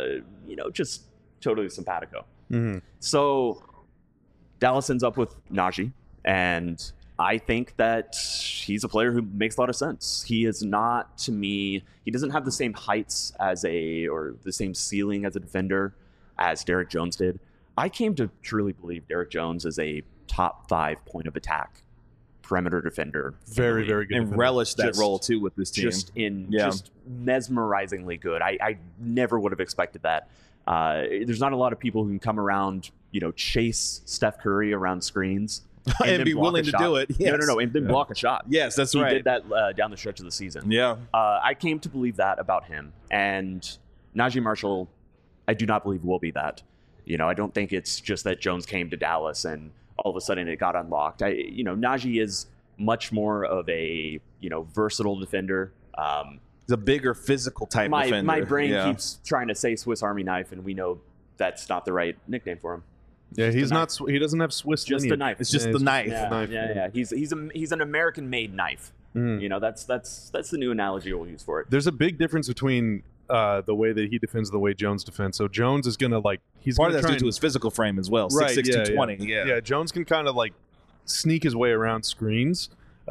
just totally simpatico. Mm-hmm. So Dallas ends up with Najee, and I think that he's a player who makes a lot of sense. He is not, to me, he doesn't have the same heights or the same ceiling as a defender as Derrick Jones did. I came to truly believe Derrick Jones is a top 5 point of attack perimeter defender. Very, very good. And relish that role too with this team. Just mesmerizingly good. I never would have expected that. There's not a lot of people who can come around, chase Steph Curry around screens and be willing to do it. Yes. No, and then block a shot. Yes, that's he right. He did that down the stretch of the season. Yeah. I came to believe that about him. And Najee Marshall, I do not believe will be that. I don't think it's just that Jones came to Dallas and all of a sudden it got unlocked. Najee is much more of a, versatile defender. He's a bigger physical type defender. My brain keeps trying to say Swiss Army knife, and we know that's not the right nickname for him. Yeah, he's not. He doesn't have Swiss. Just lineage. a knife. It's just the knife. Yeah. He's an American-made knife. That's the new analogy we'll use for it. There's a big difference between the way that he defends and the way Jones defends. So Jones is gonna he's part of gonna that's try due to his physical frame as well. Right, 6'6", 220. Yeah, Jones can kind of sneak his way around screens.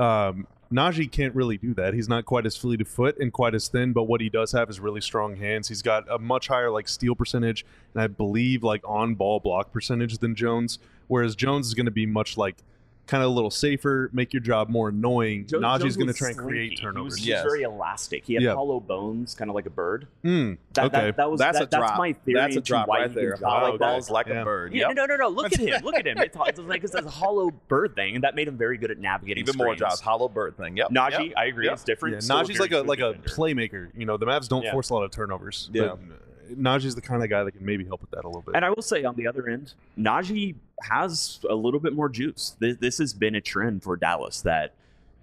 Najee can't really do that. He's not quite as fleet of foot and quite as thin, but what he does have is really strong hands. He's got a much higher steal percentage and I believe on ball block percentage than Jones. Whereas Jones is going to be much kind of a little safer, make your job more annoying. Najee's going to try and create turnovers. He was very elastic. He had hollow bones, kind of like a bird. Okay. That's a drop. That's my theory. That's a drop right there. Hollow balls like a bird. Yeah, no. Look at him. Look at him. It's a hollow bird thing, and that made him very good at navigating even screens. more drops. Hollow bird thing. Yep. Najee, I agree. It's different. Yeah, Najee's like a playmaker. The Mavs don't force a lot of turnovers. Yeah. Najee's the kind of guy that can maybe help with that a little bit. And I will say on the other end, Najee has a little bit more juice. This has been a trend for Dallas that,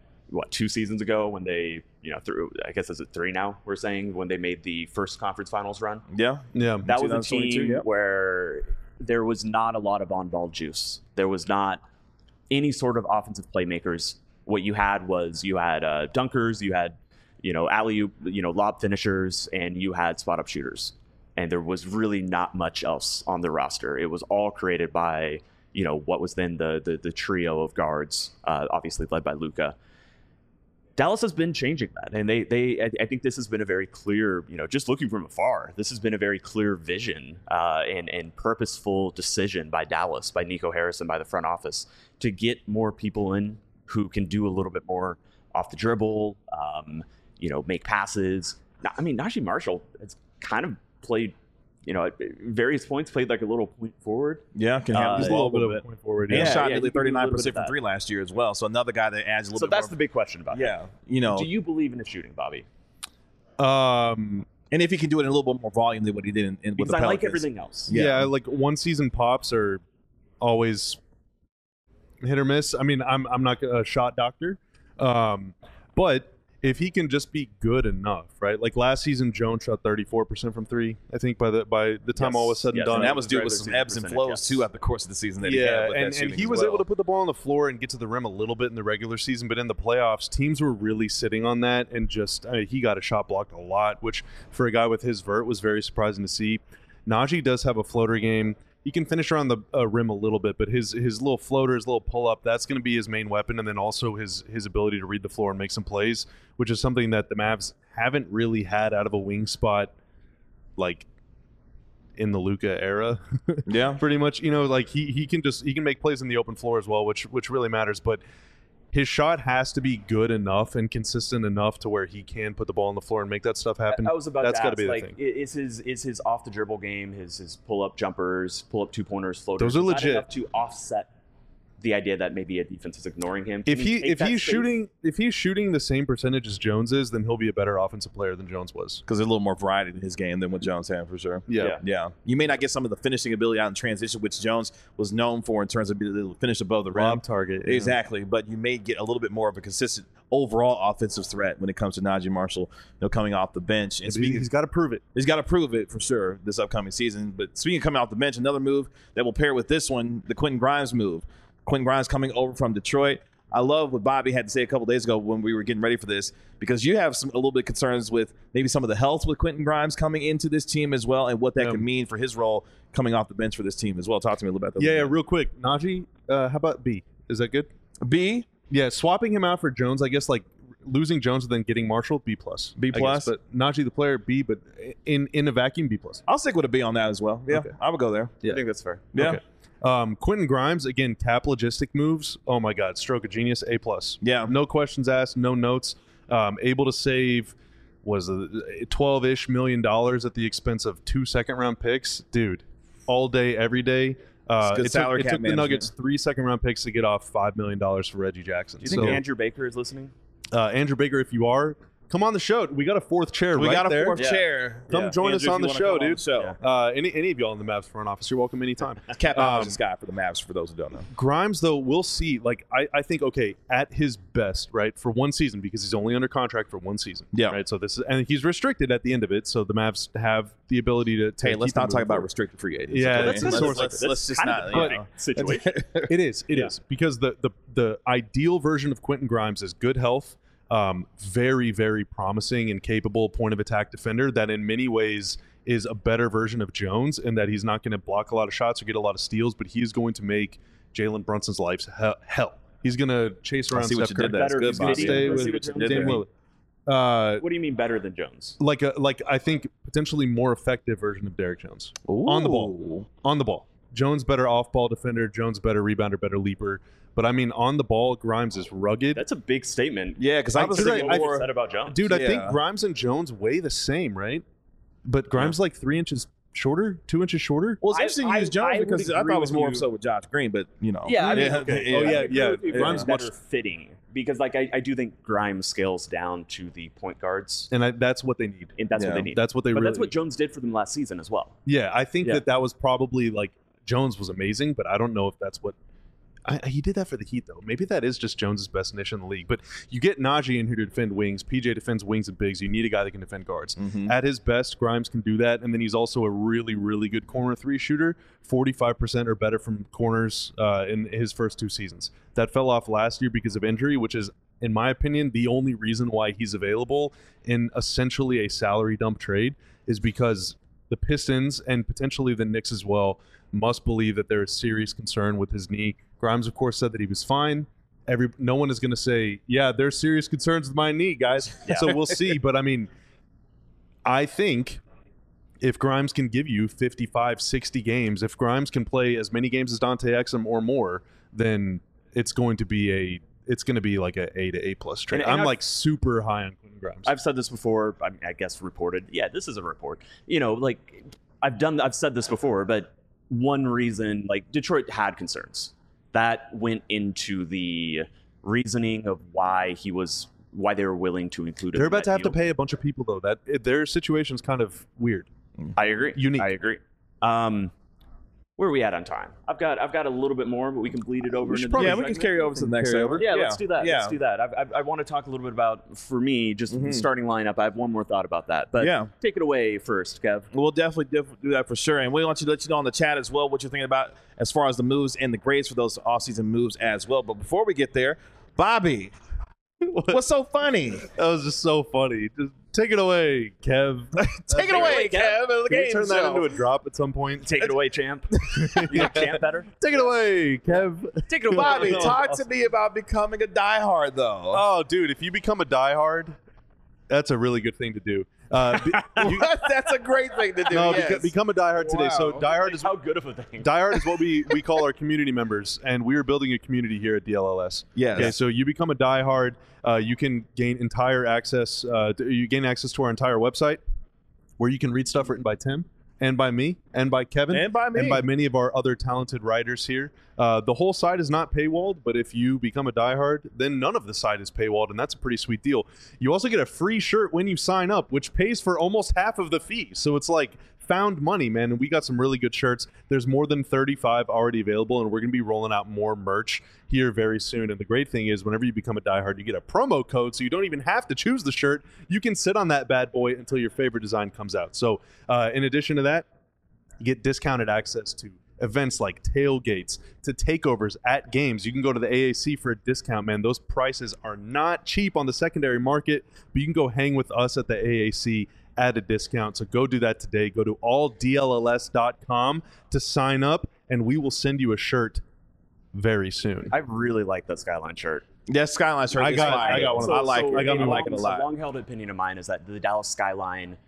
2 seasons ago when they, through, I guess is it 3 now, we're saying, when they made the first conference finals run. Yeah. That was a team where there was not a lot of on-ball juice. There was not any sort of offensive playmakers. What you had was dunkers, you had, alley-oop, lob finishers, and you had spot-up shooters. And there was really not much else on the roster. It was all created by, what was then the trio of guards, obviously led by Luka. Dallas has been changing that, and I think this has been a very clear, just looking from afar, this has been a very clear vision and purposeful decision by Dallas, by Nico Harrison, by the front office, to get more people in who can do a little bit more off the dribble, make passes. Najee Marshall has kind of played, at various points, played like a little point forward. Yeah, can have a little bit of a point forward. And shot nearly 39% from 3 last year as well. So another guy that adds a little bit more. So that's the big question about him. Do you believe in his shooting, Bobby? And if he can do it in a little bit more volume than what he did with the Pelicans. I like everything else. Yeah, one season pops are always hit or miss. I'm not a shot doctor, but if he can just be good enough, right? Last season, Jones shot 34% from 3. I think by the time all was said and done, and that was due with some ebbs and flows too at the course of the season. That he had with and he was able to put the ball on the floor and get to the rim a little bit in the regular season, but in the playoffs, teams were really sitting on that, and he got a shot blocked a lot, which for a guy with his vert was very surprising to see. Najee does have a floater game. He can finish around the rim a little bit, but his little floater, his little pull-up, that's going to be his main weapon, and then also his ability to read the floor and make some plays, which is something that the Mavs haven't really had out of a wing spot, in the Luka era. Yeah. Pretty much. He can make plays in the open floor as well, which really matters, but his shot has to be good enough and consistent enough to where he can put the ball on the floor and make that stuff happen. I was about That's to got ask, to be the thing. Is his off the dribble game, his pull up jumpers, pull up 2-pointers, floaters? Those are legit enough to offset the idea that maybe a defense is ignoring him. If he's shooting the same percentage as Jones is, then he'll be a better offensive player than Jones was. Because there's a little more variety in his game than what Jones had, for sure. Yeah. You may not get some of the finishing ability out in transition, which Jones was known for in terms of being able to finish above the rim. Lob target. Yeah. Exactly. But you may get a little bit more of a consistent overall offensive threat when it comes to Najee Marshall, coming off the bench. And He's got to prove it. He's got to prove it for sure this upcoming season. But speaking of coming off the bench, another move that will pair with this one, the Quentin Grimes move. Quentin Grimes coming over from Detroit. I love what Bobby had to say a couple days ago when we were getting ready for this, because you have a little bit of concerns with maybe some of the health with Quentin Grimes coming into this team as well, and what that could mean for his role coming off the bench for this team as well. Talk to me a little about that. Yeah, real quick. Najee, how about B? Is that good? B? Yeah, swapping him out for Jones, I guess, like losing Jones and then getting Marshall, B+. B+? But Najee the player, B, but in a vacuum, B+. I'll stick with a B on that as well. Yeah, Okay. I would go there. Yeah. I think that's fair. Yeah. Okay. Quentin Grimes, again, cap logistic moves. Oh my God, stroke of genius, A+. Yeah. No questions asked, no notes. Able to save $12-ish million at the expense of 2 second-round picks. Dude, all day, every day. Good salary cap it took the management. Nuggets 3 second-round picks to get off $5 million for Reggie Jackson. Do you think Andrew Baker is listening? Andrew Baker, if you are, come on the show. We got a fourth chair We right got a there. fourth chair. Come join Andrew, us on if the you show, wanna come on dude. the show. Any of y'all in the Mavs front office, you're welcome anytime. Cap Allen's guy for the Mavs, for those who don't know. Grimes, though, we'll see. Like, I think, okay, at his best, right, for one season, because he's only under contract for one season. Yeah. Right. So this is, and he's restricted at the end of it. So the Mavs have the ability to. Hey, let's keep him not talk moving about forward. restricted free agents. Yeah, okay? that's Let's Let's just kind not. of You a know. situation. It is. It is because the ideal version of Quentin Grimes is good health, very, very promising and capable point of attack defender that in many ways is a better version of Jones, in that he's not going to block a lot of shots or get a lot of steals, but he is going to make Jalen Brunson's life hell. He's going to chase around see what Steph you did Curry. there. That's Better good, He's going to Bobby. stay I with see what you did Dame there. Lillard. What do you mean better than Jones? Like I think potentially more effective version of Derrick Jones on the ball. On the ball, Jones better off-ball defender. Jones better rebounder, better leaper. But I mean, on the ball, Grimes is rugged. That's a big statement. Yeah, because I was thinking What you more. said about Jones. Dude, I think Yeah. Grimes and Jones weigh the same, right? But Grimes like 3 inches shorter, 2 inches shorter. Well, it's interesting you use Jones I would because I agree thought it was with more you. so with Josh Green, but Yeah, I mean, yeah. I Oh, yeah, agree yeah. with you. Grimes Grimes much- better fitting because, like, I do think Grimes scales down to the point guards, And that's what they need. and that's Yeah. what they need. That's what they but really that's what Jones did for them last season as well. Yeah, I think Yeah. that was probably like Jones was amazing, but I don't know if that's what he did that for the Heat though. Maybe that is just Jones's best niche in the league. But you get Najee in here to defend wings. PJ defends wings and bigs. You need a guy that can defend guards. Mhm. At his best, Grimes can do that, and then he's also a really, really good corner 3 shooter. 45% or better from corners in his first 2 seasons. That fell off last year because of injury, which is, in my opinion, the only reason why he's available in essentially a salary dump trade is because the Pistons and potentially the Knicks as well must believe that there is serious concern with his knee. Grimes, of course, said that he was fine. No one is going to say, yeah, there's serious concerns with my knee, guys. So we'll see. But I mean, I think if Grimes can give you 55, 60 games, if Grimes can play as many games as Dante Exum or more, then it's going to be like a A to A+ trade. And I'm I've- like super high on Quentin Grimes. I've said this before. I guess reported. Yeah, this is a report. You know, like I've said this before, but one reason, like, Detroit had concerns that went into the reasoning of why they were willing to include him. They're in about to that have to deal. pay a bunch of people though. Their situation's kind of weird. I agree. Unique. I agree. Where are we at on time? I've got a little bit more, but we can bleed it over. into the Yeah, next we can segment. carry over to the next Carry segment. Yeah, let's do that. Yeah. Let's do that. I want to talk a little bit about, for me, just the starting lineup. I have one more thought about that. But Yeah. take it away first, Kev. We'll definitely do that for sure. And we want to let you know in the chat as well what you're thinking about as far as the moves and the grades for those offseason moves as well. But before we get there, Bobby, what's so funny? That was just so funny. Just take it away, Kev. Take it away, Kev. The Can we game turn that show. into a drop at some point? Take it away, champ. You like champ better? Take it away, Kev. Take it away. Bobby, talk to me about becoming a diehard, though. Oh, dude, if you become a diehard, that's a really good thing to do. That's a great thing to do. No, yes. become a diehard today. So Wow. diehard is How good of a thing. Diehard is what we call our community members, and we are building a community here at DLLS. Yes. Okay, so you become a diehard. You can gain entire access. You gain access to our entire website, where you can read stuff written by Tim, and by me, and by Kevin, And by me. and by many of our other talented writers here. The whole site is not paywalled, but if you become a diehard, then none of the site is paywalled, and that's a pretty sweet deal. You also get a free shirt when you sign up, which pays for almost half of the fee. So it's like found money, man. And we got some really good shirts. There's more than 35 already available, and we're going to be rolling out more merch here very soon. And the great thing is, whenever you become a diehard, you get a promo code, so you don't even have to choose the shirt. You can sit on that bad boy until your favorite design comes out. So in addition to that, you get discounted access to events like tailgates, to takeovers at games. You can go to the AAC for a discount, man. Those prices are not cheap on the secondary market, but you can go hang with us at the AAC at a discount. So go do that today. Go to alldlls.com to sign up, and we will send you a shirt very soon. I really like that Skyline shirt. That Skyline shirt I is got fire. one of those. I like it a A lot. long-held opinion of mine is that the Dallas Skyline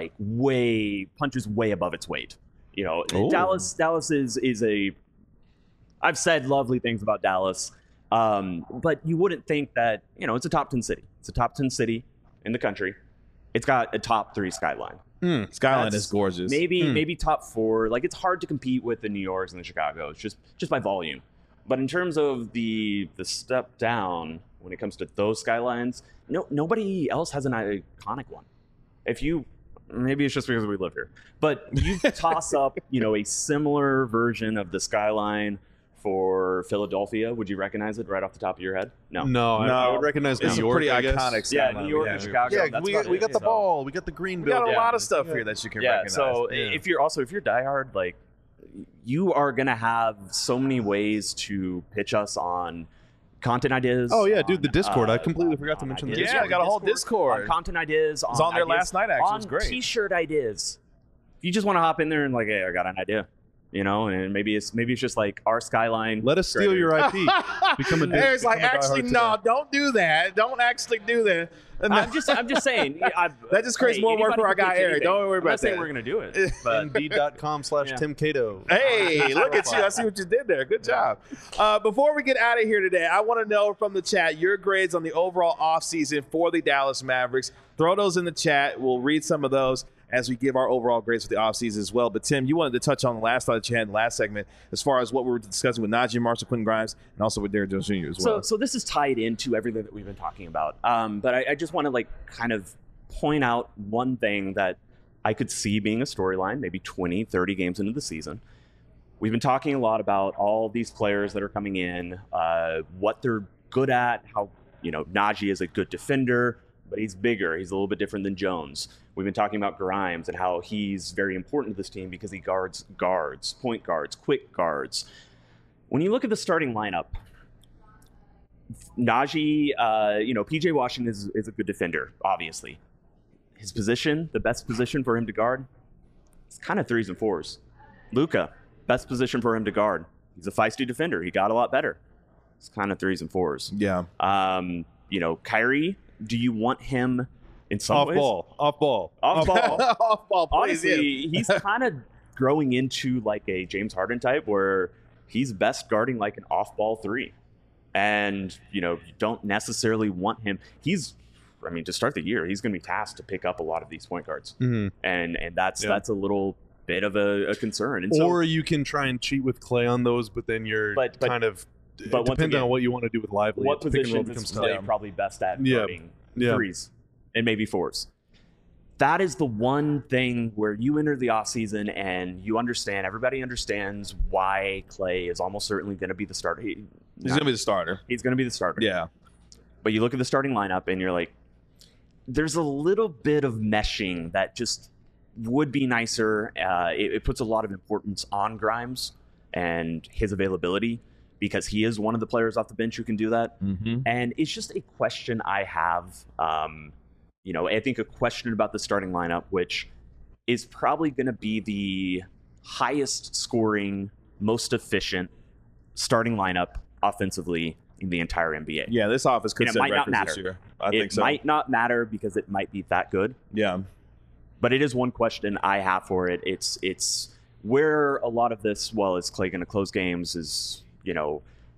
punches way above its weight. You know, Ooh. Dallas is a. I've said lovely things about Dallas, but you wouldn't think that, you know, it's a top 10 city. It's a top 10 city in the country. It's got a top 3 Skyline. Skyline That's is gorgeous. Maybe top 4. Like, it's hard to compete with the New Yorks and the Chicagos just by volume. But in terms of the step down when it comes to those Skylines, nobody else has an iconic one. Maybe it's just because we live here, but you toss up, a similar version of the Skyline for Philadelphia. Would you recognize it right off the top of your head? No. I would recognize New It's York. a pretty I guess. iconic Yeah, Skyline. New York and Chicago. Yeah, that's we about got it. the So- ball. We got the green We got building. a lot of stuff here that you can Yeah. recognize. So if you're diehard, like, you are gonna have so many ways to pitch us on content ideas. Oh, yeah, dude, on, the Discord. I completely forgot to on mention the ideas. Yeah, I got a whole On Discord. content ideas. was on there ideas, last night, actually. It was on great. T-shirt ideas. If you just want to hop in there and like, hey, I got an idea, and maybe it's just like our Skyline. Let us steal your IP. Become a Eric's like, become a actually, diehard no, today. don't do that. Don't actually do that. And I'm just saying. That just creates more work for our guy, Eric. Don't worry I'm not about saying that. we're gonna do it, but Indeed.com/Tim Cato. Hey, look at you. I see what you did there. Good job. Before we get out of here today, I want to know from the chat your grades on the overall offseason for the Dallas Mavericks. Throw those in the chat. We'll read some of those as we give our overall grades for the offseason as well. But, Tim, you wanted to touch on the last thought that you had in the last segment as far as what we were discussing with Najee Marshall, Quentin Grimes, and also with Derrick Jones Jr. as well. So this is tied into everything that we've been talking about. But I just want to kind of point out one thing that I could see being a storyline, maybe 20, 30 games into the season. We've been talking a lot about all these players that are coming in, what they're good at, how, Najee is a good defender, but he's bigger. He's a little bit different than Jones. We've been talking about Grimes and how he's very important to this team because he guards, point guards, quick guards. When you look at the starting lineup, Najee, PJ Washington is a good defender, obviously. His position, the best position for him to guard, it's kind of 3s and 4s. Luka, best position for him to guard. He's a feisty defender. He got a lot better. It's kind of 3s and 4s. Yeah. Kyrie, do you want him in some ways? Off ball. Off ball, please. Honestly, he's kind of growing into like a James Harden type where he's best guarding like an off-ball 3. And, you don't necessarily want him. To start the year, he's going to be tasked to pick up a lot of these point guards. Mhm. And that's a little bit of a concern. And so, Or you can try and cheat with Clay on those, but then you're But kind of once depending again, on what you want to do with Lively. what the pick and roll positions is becomes Clay tough. probably best at Yeah. guarding Yeah. 3s and maybe 4s? That is the one thing where you enter the offseason and everybody understands why Clay is almost certainly going to be the starter. He's going to be the starter. He's going to be the starter. Yeah. But you look at the starting lineup and you're like, there's a little bit of meshing that just would be nicer. It puts a lot of importance on Grimes and his availability because he is one of the players off the bench who can do that. Mm-hmm. And it's just a question I have. I think a question about the starting lineup, which is probably going to be the highest scoring, most efficient starting lineup offensively in the entire NBA. Yeah, this office could And it set might not records this matter. year. I think so. It might not matter because it might be that good. Yeah. But it is one question I have for it. It's where a lot of this, well, is Clay going to close games? Is,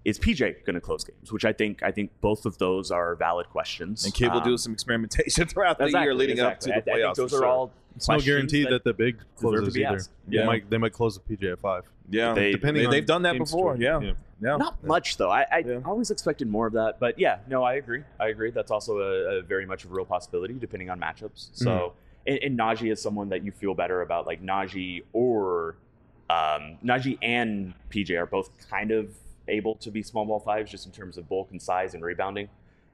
is PJ going to close games? Which I think both of those are valid questions. And Kidd will do some experimentation throughout the year leading up to the playoffs. I think those are all. It's no guarantee that the big closes either. Yeah. They might close the PJ at 5. Yeah, they've done that before. Yeah. Not much though. I always expected more of that, but yeah, no, I agree. That's also a very much a real possibility depending on matchups. So, and Najee is someone that you feel better about, like Najee and PJ are both kind of able to be small ball 5s just in terms of bulk and size and rebounding,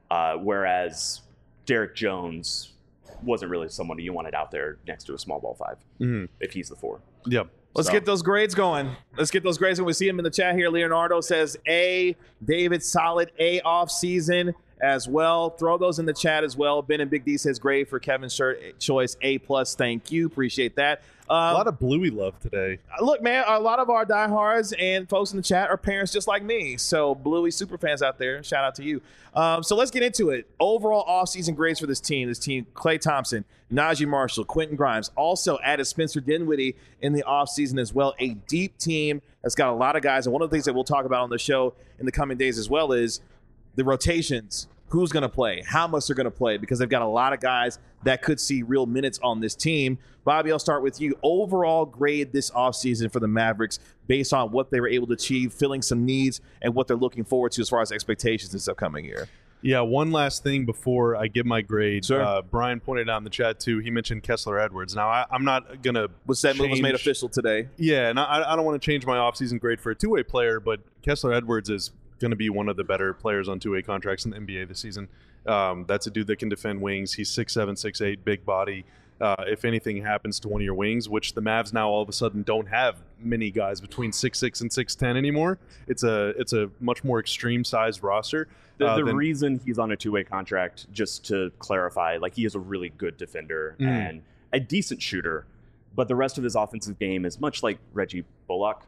whereas Derek Jones wasn't really someone you wanted out there next to a small ball 5 if he's the 4. Yep. Let's get those grades going. We see him in the chat here. Leonardo says A. David, solid A off season as well. Throw those in the chat as well. Ben and Big D says grade for Kevin's shirt choice A+. Thank you. Appreciate that. A lot of Bluey love today. Look, man, a lot of our diehards and folks in the chat are parents just like me. So Bluey super fans out there, shout out to you. So let's get into it. Overall offseason grades for this team. Klay Thompson, Najee Marshall, Quentin Grimes. Also added Spencer Dinwiddie in the offseason as well. A deep team that's got a lot of guys. And one of the things that we'll talk about on the show in the coming days as well is the rotations. Who's going to play, how much they're going to play, because they've got a lot of guys that could see real minutes on this team. Bobby, I'll start with you. Overall grade this offseason for the Mavericks based on what they were able to achieve, filling some needs, and what they're looking forward to as far as expectations this upcoming year. Yeah, one last thing before I give my grade. Sure. Brian pointed out in the chat, too, he mentioned Kessler Edwards. Now, I'm not going to that move was made official today. Yeah, and I don't want to change my offseason grade for a two-way player, but Kessler Edwards is going to be one of the better players on two-way contracts in the NBA this season. That's a dude that can defend wings. He's 6'7", 6'8", big body. If anything happens to one of your wings, which the Mavs now all of a sudden don't have many guys between 6'6" and 6'10" anymore. It's a much more extreme sized roster. The reason he's on a two-way contract, just to clarify, like he is a really good defender and a decent shooter, but the rest of his offensive game is much like Reggie Bullock.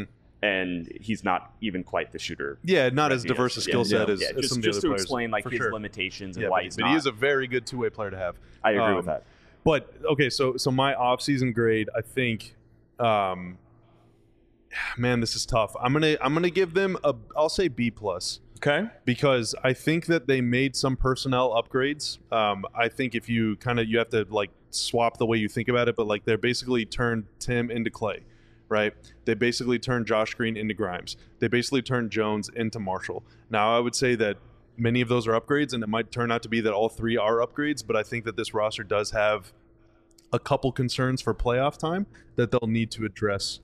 And he's not even quite the shooter. Yeah, not as diverse a skill set as just, some of the other to players. Explain like his limitations and why he's not. But he is a very good two-way player to have. I agree with that. But okay, so my off-season grade, I think, man, this is tough. I'm gonna give them I'll say B+. Okay. Because I think that they made some personnel upgrades. I think if you have to like swap the way you think about it, but like they're basically turned Tim into Klay. Right? They basically turned Josh Green into Grimes. They basically turned Jones into Marshall. Now, I would say that many of those are upgrades, and it might turn out to be that all three are upgrades, but I think that this roster does have a couple concerns for playoff time that they'll need to address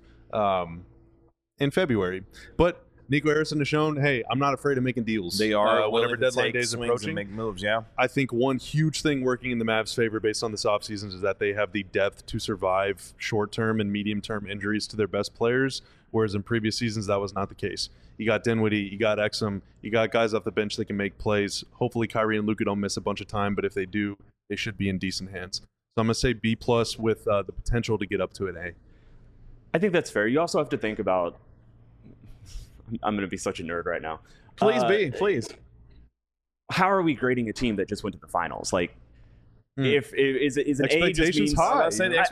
in February. But Nico Harrison has shown, hey, I'm not afraid of making deals. They are whenever deadline day is approaching. And make moves, yeah. I think one huge thing working in the Mavs' favor based on this offseason is that they have the depth to survive short-term and medium-term injuries to their best players, whereas in previous seasons that was not the case. You got Dinwiddie, you got Exum, you got guys off the bench that can make plays. Hopefully Kyrie and Luka don't miss a bunch of time, but if they do, they should be in decent hands. So I'm going to say B+ with the potential to get up to an A. I think that's fair. You also have to think about I'm going to be such a nerd right now. Please. How are we grading a team that just went to the finals? Like, if is an A just means high?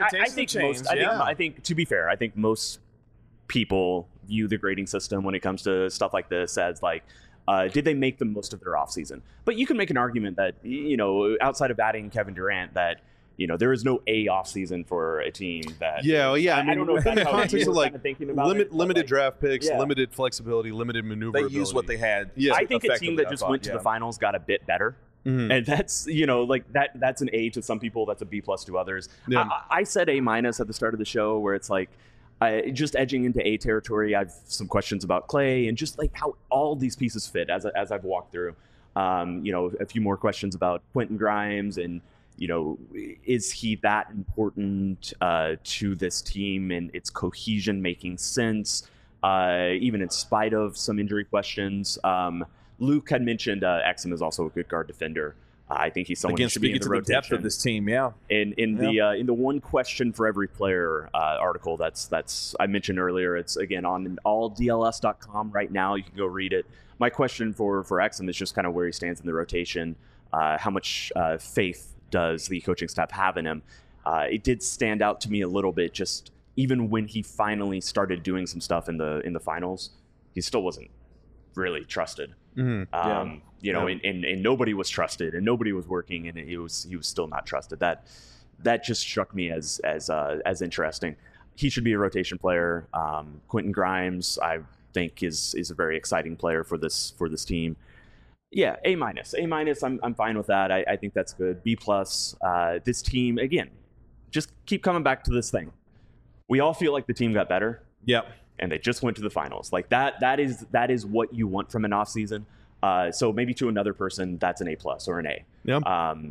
I think to be fair, I think most people view the grading system when it comes to stuff like this as like, did they make the most of their offseason? But you can make an argument that outside of adding Kevin Durant, that there is no A offseason for a team that. Yeah. I mean, I don't know if that's in the context of like limited draft picks, yeah. limited flexibility, limited maneuverability. They used what they had. Yeah, I think a team that just went to the finals got a bit better. And that's that's an A to some people, that's a B+ to others. Yeah. I said A- at the start of the show, where it's like just edging into A territory. I've some questions about Klay and just like how all these pieces fit as I've walked through. A few more questions about Quentin Grimes and. Is he that important to this team and its cohesion making sense, even in spite of some injury questions? Luke had mentioned Exum is also a good guard defender. I think he's someone who should be in the rotation. Depth of this team, yeah. In the one question for every player article that's I mentioned earlier, it's again on alldls.com right now. You can go read it. My question for Exum is just kind of where he stands in the rotation, how much faith does the coaching staff have in him. It did stand out to me a little bit, just even when he finally started doing some stuff in the finals, he still wasn't really trusted. Mm-hmm. You know, and nobody was trusted, and nobody was working, and he was still not trusted. That just struck me as interesting. He should be a rotation player. Quentin Grimes, I think, is a very exciting player for this team. Yeah, A-. I'm fine with that. I think that's good. B+. This team, again, just keep coming back to this thing. We all feel like the team got better. Yep. And they just went to the finals. Like that is what you want from an offseason. So maybe to another person, that's an A+ or an A. Yeah.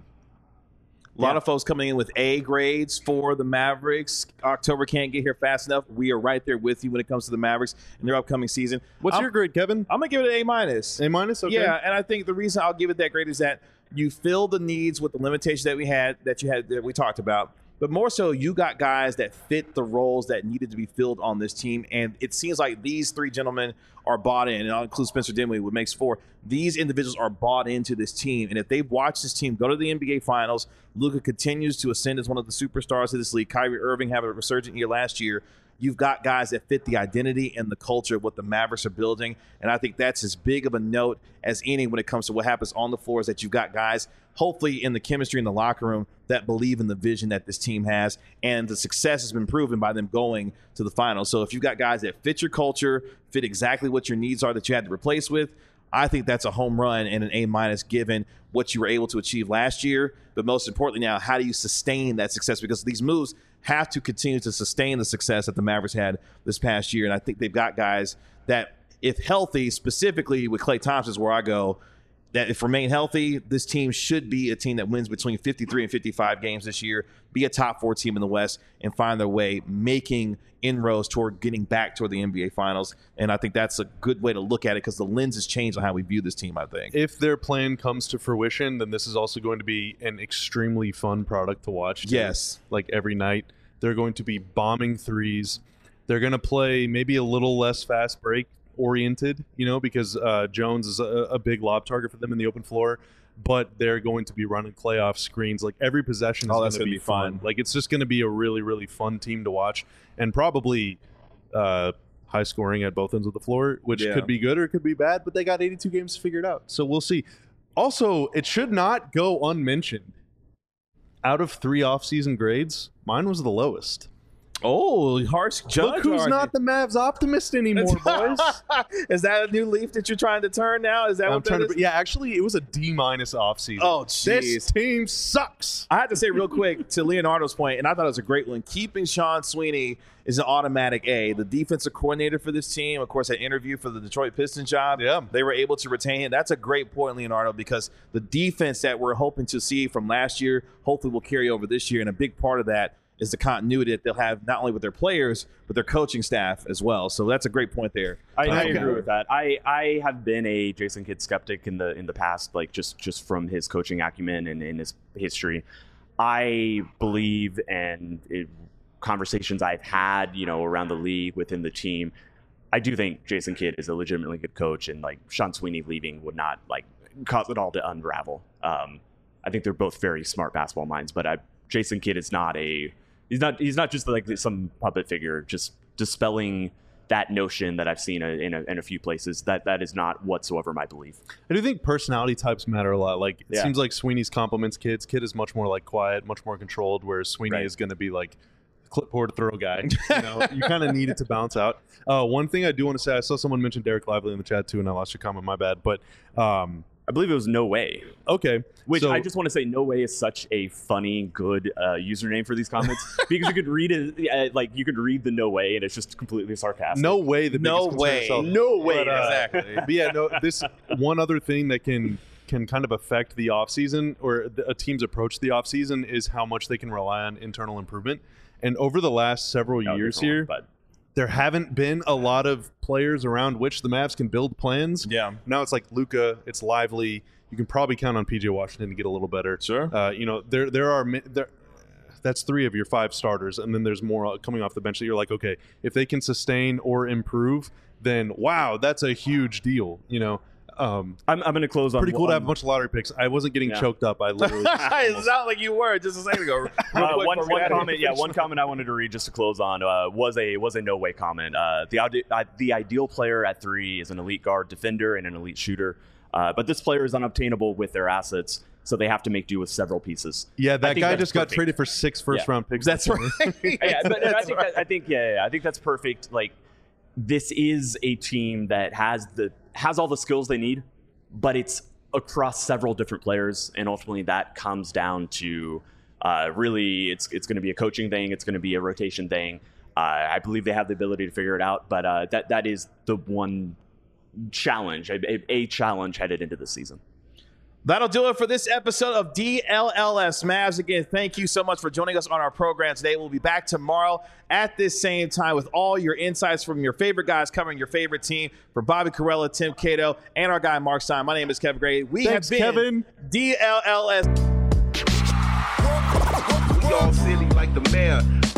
A lot of folks coming in with A grades for the Mavericks. October can't get here fast enough. We are right there with you when it comes to the Mavericks and their upcoming season. What's your grade, Kevin? I'm going to give it an A-. A-? Okay. Yeah, and I think the reason I'll give it that grade is that you fill the needs with the limitations that we talked about. But more so, you got guys that fit the roles that needed to be filled on this team. And it seems like these three gentlemen are bought in, and I'll include Spencer Dinwiddie, what makes 4. These individuals are bought into this team. And if they've watched this team go to the NBA Finals, Luka continues to ascend as one of the superstars of this league. Kyrie Irving having a resurgent year last year. You've got guys that fit the identity and the culture of what the Mavericks are building. And I think that's as big of a note as any when it comes to what happens on the floor, is that you've got guys, hopefully in the chemistry in the locker room, that believe in the vision that this team has. And the success has been proven by them going to the finals. So if you've got guys that fit your culture, fit exactly what your needs are that you had to replace with, I think that's a home run and an A- given what you were able to achieve last year. But most importantly now, how do you sustain that success? Because these moves have to continue to sustain the success that the Mavericks had this past year. And I think they've got guys that, if healthy, specifically with Klay Thompson is where I go, that if remain healthy, this team should be a team that wins between 53 and 55 games this year, be a top 4 team in the West, and find their way making inroads toward getting back toward the NBA Finals. And I think that's a good way to look at it, because the lens has changed on how we view this team, I think. If their plan comes to fruition, then this is also going to be an extremely fun product to watch. Yes. Like every night, they're going to be bombing threes. They're going to play maybe a little less fast break oriented, because Jones is a big lob target for them in the open floor, but they're going to be running Klay off screens. Like every possession is going to be fun. Like it's just going to be a really, really fun team to watch, and probably high scoring at both ends of the floor, which could be good or it could be bad, but they got 82 games figured out. So we'll see. Also, it should not go unmentioned. Out of 3 offseason grades, mine was the lowest. Oh, harsh judge. Look who's not the Mavs optimist anymore, boys. Is that a new leaf that you're trying to turn now? Is that what that is? Yeah, actually, it was a D- offseason. Oh, jeez. This team sucks. I have to say real quick to Leonardo's point, and I thought it was a great one, keeping Sean Sweeney is an automatic A. The defensive coordinator for this team, of course, had interviewed for the Detroit Pistons job. Yeah. They were able to retain him. That's a great point, Leonardo, because the defense that we're hoping to see from last year hopefully will carry over this year, and a big part of that is the continuity that they'll have not only with their players, but their coaching staff as well. So that's a great point there. I agree with that. I have been a Jason Kidd skeptic in the past, like just from his coaching acumen and in his history. I believe, and conversations I've had, around the league within the team, I do think Jason Kidd is a legitimately good coach, and like Sean Sweeney leaving would not like cause it all to unravel. I think they're both very smart basketball minds, but Jason Kidd is not He's not just like some puppet figure, just dispelling that notion that I've seen in a few places. That is not whatsoever my belief. I do think personality types matter a lot. Like it seems like Sweeney's compliments Kidd. Kidd is much more like quiet, much more controlled, whereas Sweeney is going to be like clipboard throw guy. You kind of need it to bounce out. One thing I do want to say, I saw someone mention Derek Lively in the chat too, and I lost your comment. My bad, but. I believe it was No Way. Okay. Which I just want to say, No Way is such a funny, good username for these comments, because you could read it, you could read the No Way, and it's just completely sarcastic. No way. No way. No way. Exactly. But yeah, no. This one other thing that can kind of affect the offseason, or a team's approach to the offseason, is how much they can rely on internal improvement. And over the last several years here, there haven't been a lot of players around which the Mavs can build plans. Yeah. Now it's like Luka, it's Lively. You can probably count on PJ Washington to get a little better. Sure. That's 3 of your 5 starters, and then there's more coming off the bench that you're like, okay, if they can sustain or improve, then wow, that's a huge deal. I'm going to close on pretty cool to have a bunch of lottery picks. I wasn't getting choked up. I literally It's not like you were just a second ago. One comment. Yeah, one comment I wanted to read just to close on was a no way comment. The ideal player at 3 is an elite guard defender and an elite shooter, but this player is unobtainable with their assets. So they have to make do with several pieces. Yeah, that guy just got traded for 6 first-round picks. That's right. I think that's perfect. Like, this is a team that has all the skills they need, but it's across several different players, and ultimately that comes down to really it's going to be a coaching thing. It's going to be a rotation thing. I believe they have the ability to figure it out, but that is the one challenge, a challenge headed into this season. That'll do it for this episode of DLLS Mavs. Again, thank you so much for joining us on our program today. We'll be back tomorrow at this same time with all your insights from your favorite guys covering your favorite team. For Bobby Carella, Tim Cato, and our guy Mark Stein, my name is Kevin Gray. Thanks, have been Kevin. DLLS. We all silly like the mayor.